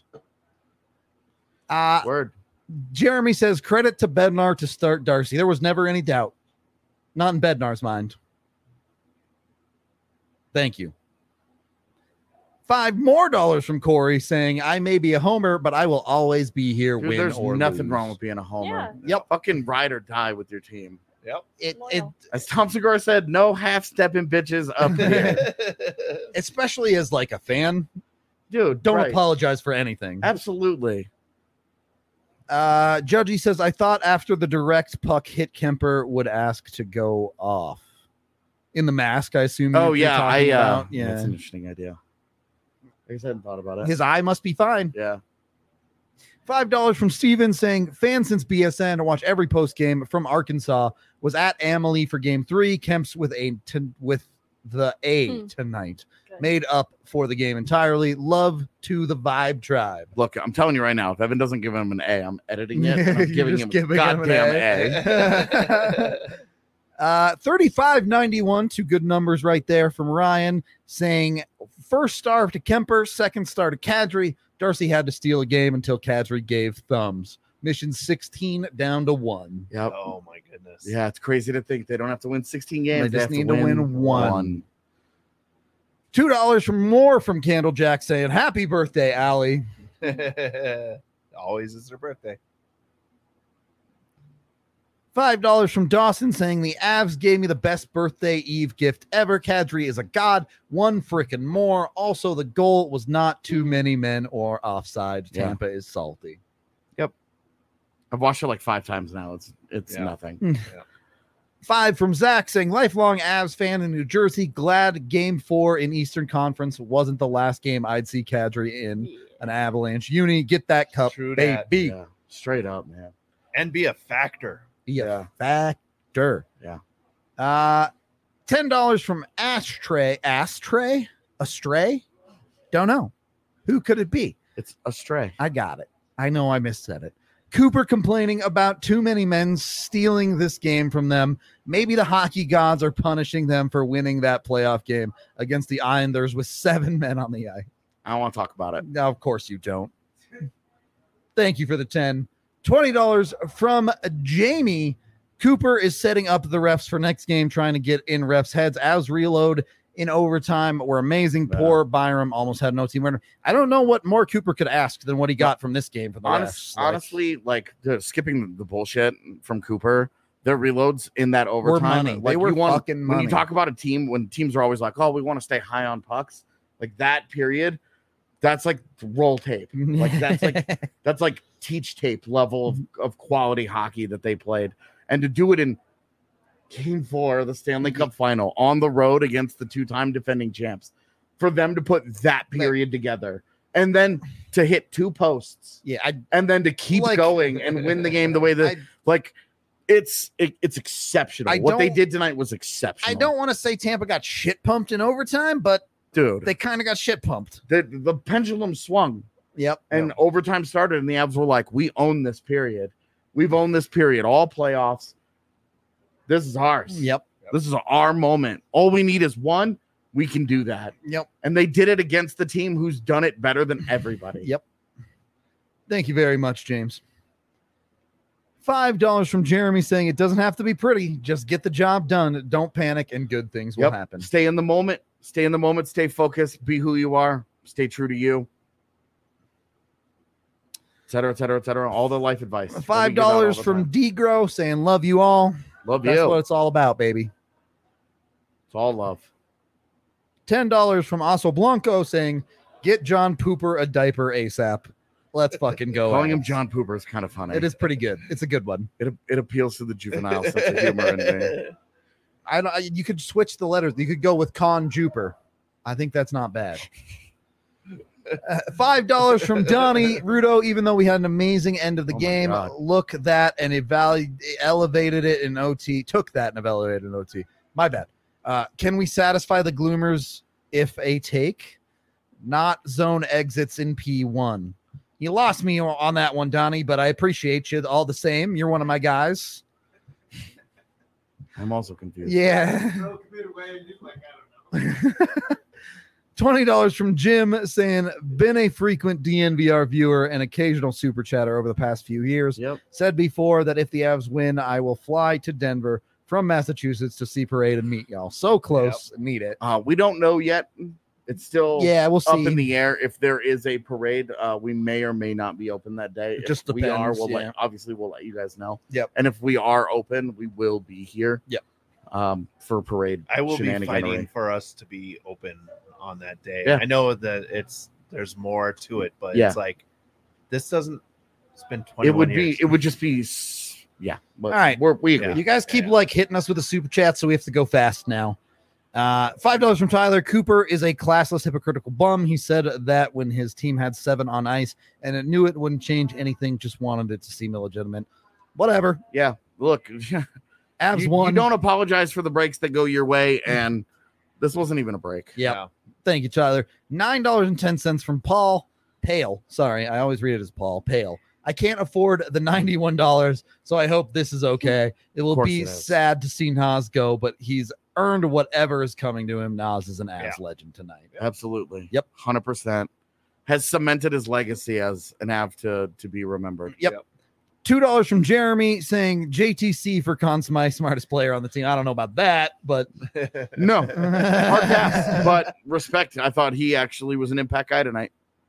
Uh, Word. Jeremy says, credit to Bednar to start Darcy. There was never any doubt. Not in Bednar's mind. Thank you. Five more dollars from Corey saying, I may be a homer, but I will always be here, Dude, win there's or nothing lose. wrong with being a homer. Yeah. Yep. Fucking ride or die with your team. Yep. It, it, Loyal. As Tom Segura said, no half stepping bitches up here. especially as like a fan, Dude, don't right. apologize for anything. Absolutely. Uh, Judgy says, I thought after the direct puck hit Kemper would ask to go off. In the mask, I assume. Oh, you're yeah. I, talking uh, about. That's Yeah. an interesting idea. I guess I hadn't thought about it. His eye must be fine. yeah. Five dollars from Steven saying, fan since B S N to watch every post game from Arkansas. Was at Amalie for game three. Kemp's with a t- with the A Hmm. tonight. Good. Made up for the game entirely. Love to the Vibe Tribe. Look, I'm telling you right now, if Evan doesn't give him an A, I'm editing it. And I'm You're giving just him giving a him an goddamn A. A. Uh, thirty-five ninety-one, two good numbers right there from Ryan saying first star to Kemper, second star to Kadri. Darcy had to steal a game until Kadri gave thumbs. Mission sixteen down to one. Yep. Oh my goodness. Yeah, it's crazy to think they don't have to win sixteen games. They just have need to win one. one. Two dollars from more from Candlejack saying happy birthday, Allie. Always is their birthday. Five dollars from Dawson saying the Avs gave me the best birthday Eve gift ever. Kadri is a god. One freaking more. Also, the goal was not too many men or offside. Yeah. Tampa is salty. I've watched it like five times now. It's it's Yeah. nothing. Five from Zach saying lifelong Avs fan in New Jersey. Glad game four in Eastern Conference wasn't the last game I'd see Kadri in Yeah. an Avalanche uni. Get that cup, True that. baby. Yeah, straight up, man. And be a factor. Be a Yeah. factor. Yeah. Uh, ten dollars from Ashtray. Astray? Astray? Don't know. Who could it be? It's a stray. I got it. I know I missaid it. Cooper complaining about too many men stealing this game from them. Maybe the hockey gods are punishing them for winning that playoff game against the Islanders with seven men on the ice. I don't want to talk about it. Now, of course you don't. Thank you for the ten. twenty dollars from Jamie. Cooper is setting up the refs for next game, trying to get in refs' heads. As reload in overtime were amazing. Yeah. Poor Byram almost had no team winner. I don't know what more Cooper could ask than what he got from this game from the Honest, refs. Like, honestly, like the, skipping the bullshit from Cooper, their reloads in that overtime, money. They like were you want, fucking when money. you talk about a team, when teams are always like, "Oh, we want to stay high on pucks," like that period, that's like roll tape. Like that's like that's like teach tape level of, of quality hockey that they played, and to do it in Game four of the Stanley Cup final on the road against the two-time defending champs. For them to put that period together and then to hit two posts, Yeah, I and then to keep Like- going and win the game the way that I, like it's it, it's exceptional. I What they don't- did tonight was exceptional. I don't want to say Tampa got shit pumped in overtime, but dude. they kind of got shit pumped. the, the pendulum swung Yep. and overtime started, and the Avs were like, "We own this period. We've owned this period all playoffs. This is ours. Yep. This is our moment. All we need is one. We can do that." Yep. And they did it against the team who's done it better than everybody. Yep. Thank you very much, James. Five dollars from Jeremy saying it doesn't have to be pretty. Just get the job done. Don't panic, and good things will Yep. happen. Stay in the moment. Stay in the moment. Stay focused. Be who you are. Stay true to you. Et cetera, et cetera, et cetera. All the life advice. that we Five give out all dollars the from time. Degro saying love you all. Love That's you. what it's all about, baby. It's all love. Ten dollars from Oso Blanco saying get John Pooper a diaper ASAP. Let's fucking go. Calling him Avs. John Pooper is kind of funny. It is pretty good. It's a good one. It, it appeals to the juvenile sense of humor in me. I don't. I- You could switch the letters. You could go with Con Juper. I think that's not bad. Uh, Five dollars from Donnie Rudo. Even though we had an amazing end of the Oh my game, God. look that and evalu- elevated it in O T. Took that and elevated it in O T. My bad. Uh, can we satisfy the Gloomers if a take? Not zone exits in P one. You lost me on that one, Donnie, but I appreciate you all the same. You're one of my guys. I'm also confused. Yeah. Throw a computer away and he's like, I don't know. twenty dollars from Jim saying, been a frequent D N V R viewer and occasional super chatter over the past few years. Yep. Said before that if the Avs win, I will fly to Denver from Massachusetts to see parade and meet y'all. So close. Need it. Uh, we don't know yet. It's still Yeah, we'll up see. in the air. If there is a parade, uh, we may or may not be open that day. It just if we are, depends, we'll yeah. let, obviously we'll let you guys know. Yep. And if we are open, we will be here. Yep. Um, for parade. I will be shenaniganery. fighting for us to be open on that day. Yeah. I know that it's there's more to it, but Yeah. it's like this doesn't. It's been twenty. It would years. be. It would just be. s- Yeah. But All right. We're, we agree. Yeah. You guys keep Yeah. like hitting us with the super chat, so we have to go fast now. Uh, Five dollars from Tyler. Cooper is a classless, hypocritical bum. He said that when his team had seven on ice, and it knew it wouldn't change anything, just wanted it to seem illegitimate. Whatever. Yeah. Look. Avs you, won. you don't apologize for the breaks that go your way, and this wasn't even a break. Yep. Yeah. Thank you, Tyler. Nine dollars and ten cents from Paul Pale. Sorry, I always read it as Paul Pale. I can't afford the ninety-one dollars, so I hope this is okay. It will course be it is. sad to see Nas go, but he's earned whatever is coming to him. Nas is an Avs legend tonight. Absolutely. Yep. one hundred percent. Has cemented his legacy as an Av to, to be remembered. Yep. Two dollars from Jeremy saying J T C for Conn Smythe, smartest player on the team. I don't know about that, but No. Hard pass, but respect. I thought he actually was an impact guy tonight.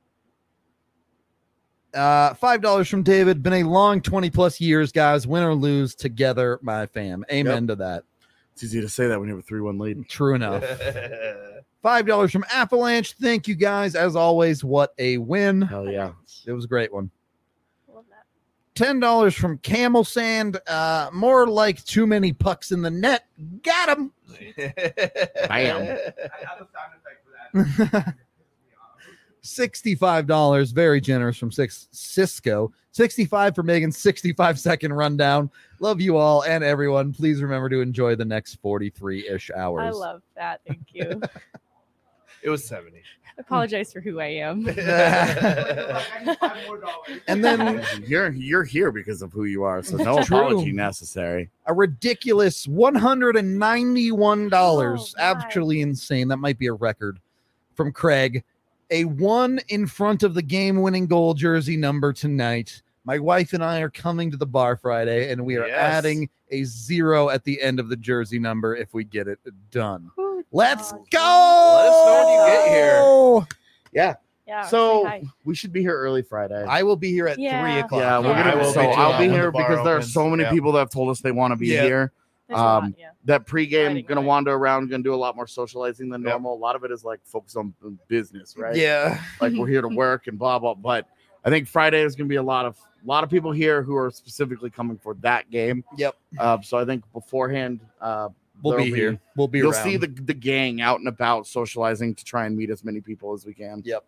uh, five dollars from David. Been a long twenty plus years, guys. Win or lose, together, my fam. Amen to that. It's easy to say that when you have a three one lead. True enough. Five dollars from Avalanche. Thank you guys. As always, what a win. Hell yeah. It was a great one. Love that. Ten dollars from Camel Sand. Uh, more like too many pucks in the net. Got him. Bam. I have a sound effect for that. Sixty-five dollars. Very generous from six Cisco. Sixty-five for Megan. Sixty-five second rundown. Love you all and everyone. Please remember to enjoy the next forty-three ish hours. I love that. Thank you. It was seventy. Apologize for who I am. Like, I need five more dollars. And then You're you're here because of who you are, so no It's true. apology necessary. a ridiculous one hundred ninety-one dollars. Oh, my. Actually insane. That might be a record from Craig. A one in front of the game-winning goal jersey number tonight. My wife and I are coming to the bar Friday, and we are Yes. adding a zero at the end of the jersey number if we get it done. Who Let's does? go! Let us know when you get here. Yeah. Yeah. So say hi. we should be here early Friday. I will be here at Yeah. three o'clock. yeah, we're Yeah. gonna. I will so be too, I'll be when here the bar because there are opens. so many Yeah. people that have told us they want to be Yeah. here. There's a lot, um, yeah. That pregame, Friday gonna night. wander around, gonna do a lot more socializing than Yep. normal. A lot of it is like focused on business, right? Yeah. Like we're here to work and blah blah. But I think Friday is going to be a lot of a lot of people here who are specifically coming for that game. Yep. Uh, so I think beforehand, uh, We'll be there'll here. We'll be You'll around. see the the gang out and about socializing to try and meet as many people as we can. Yep.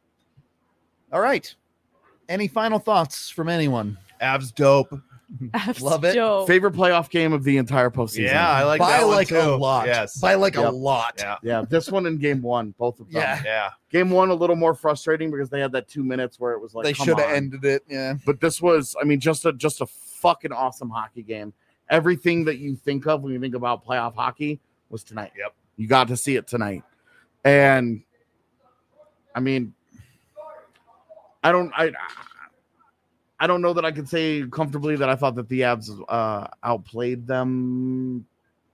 All right. Any final thoughts from anyone? Avs dope. Love it. Dope. Favorite playoff game of the entire postseason. Yeah, I like By that one like too. a lot. Yes. By like a Yep. lot. Yeah. Yeah, this one and game one, both of them. Yeah. Yeah. Game one a little more frustrating because they had that two minutes where it was like They come should have on. ended it. Yeah. But this was, I mean, just a just a fucking awesome hockey game. Everything that you think of when you think about playoff hockey was tonight. Yep. You got to see it tonight. And I mean, I don't I I don't know that I could say comfortably that I thought that the Avs uh outplayed them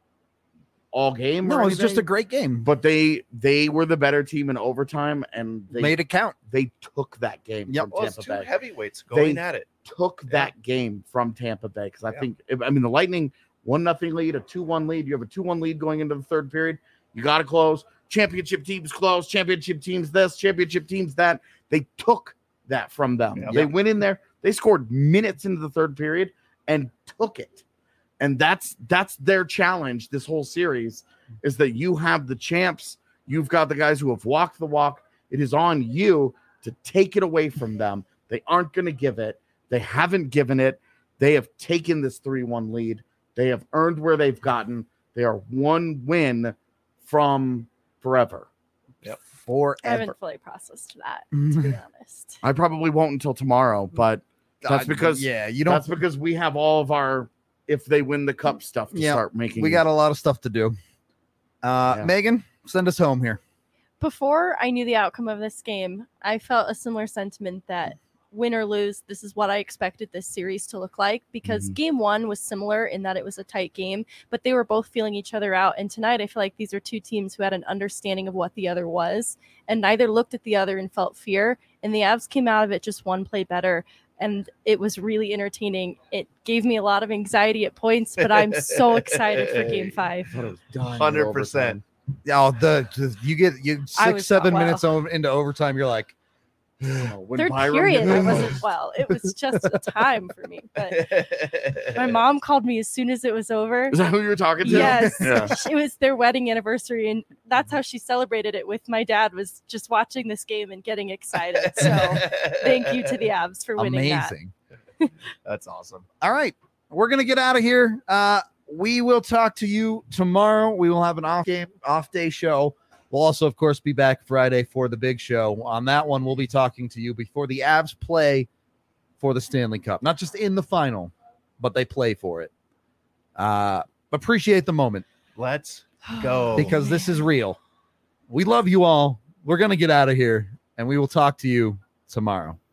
all game. No, or it was just a anything. great game. But they they were the better team in overtime, and they Made it count. they took that game Yep. from Well, it's Tampa two Bay. heavyweights going They- at it. Took that game from Tampa Bay because I Yeah. think I mean the Lightning one nothing lead, a two one lead. You have a two one lead going into the third period. You got to close. Championship teams close. Championship teams this. Championship teams that. They took that from them. Yep. They went in there. They scored minutes into the third period and took it. And that's that's their challenge this whole series is that you have the champs. You've got the guys who have walked the walk. It is on you to take it away from them. They aren't going to give it. They haven't given it. They have taken this three one lead. They have earned where they've gotten. They are one win from forever. I Forever. haven't fully processed that, to be honest. I probably won't until tomorrow, but that's God, because yeah, you don't. that's because we have all of our if they win the cup stuff to Yeah, start making. We got a lot of stuff to do. Uh, Yeah. Megan, send us home here. Before I knew the outcome of this game, I felt a similar sentiment that win or lose, this is what I expected this series to look like because Mhm. game one was similar in that it was a tight game, but they were both feeling each other out. And tonight, I feel like these are two teams who had an understanding of what the other was, and neither looked at the other and felt fear. And the Avs came out of it just one play better. And it was really entertaining. It gave me a lot of anxiety at points, but I'm so excited for game five. one hundred percent. Oh, the, the you get you I six was- seven wow. minutes over, into overtime. You're like, Third period, I wasn't well. It was just a time for me. But my mom called me as soon as it was over. Is that who you were talking to? Yes, Yeah. it was their wedding anniversary, and that's how she celebrated it with my dad. Was just watching this game and getting excited. So thank you to the Avs for winning that. amazing. That's awesome. All right, we're gonna get out of here. Uh, we will talk to you tomorrow. We will have an off game, off day show. We'll also, of course, be back Friday for the big show. On that one, we'll be talking to you before the Avs play for the Stanley Cup. Not just in the final, but they play for it. Uh, appreciate the moment Let's go. because this is real. We love you all. We're gonna get out of here, and we will talk to you tomorrow.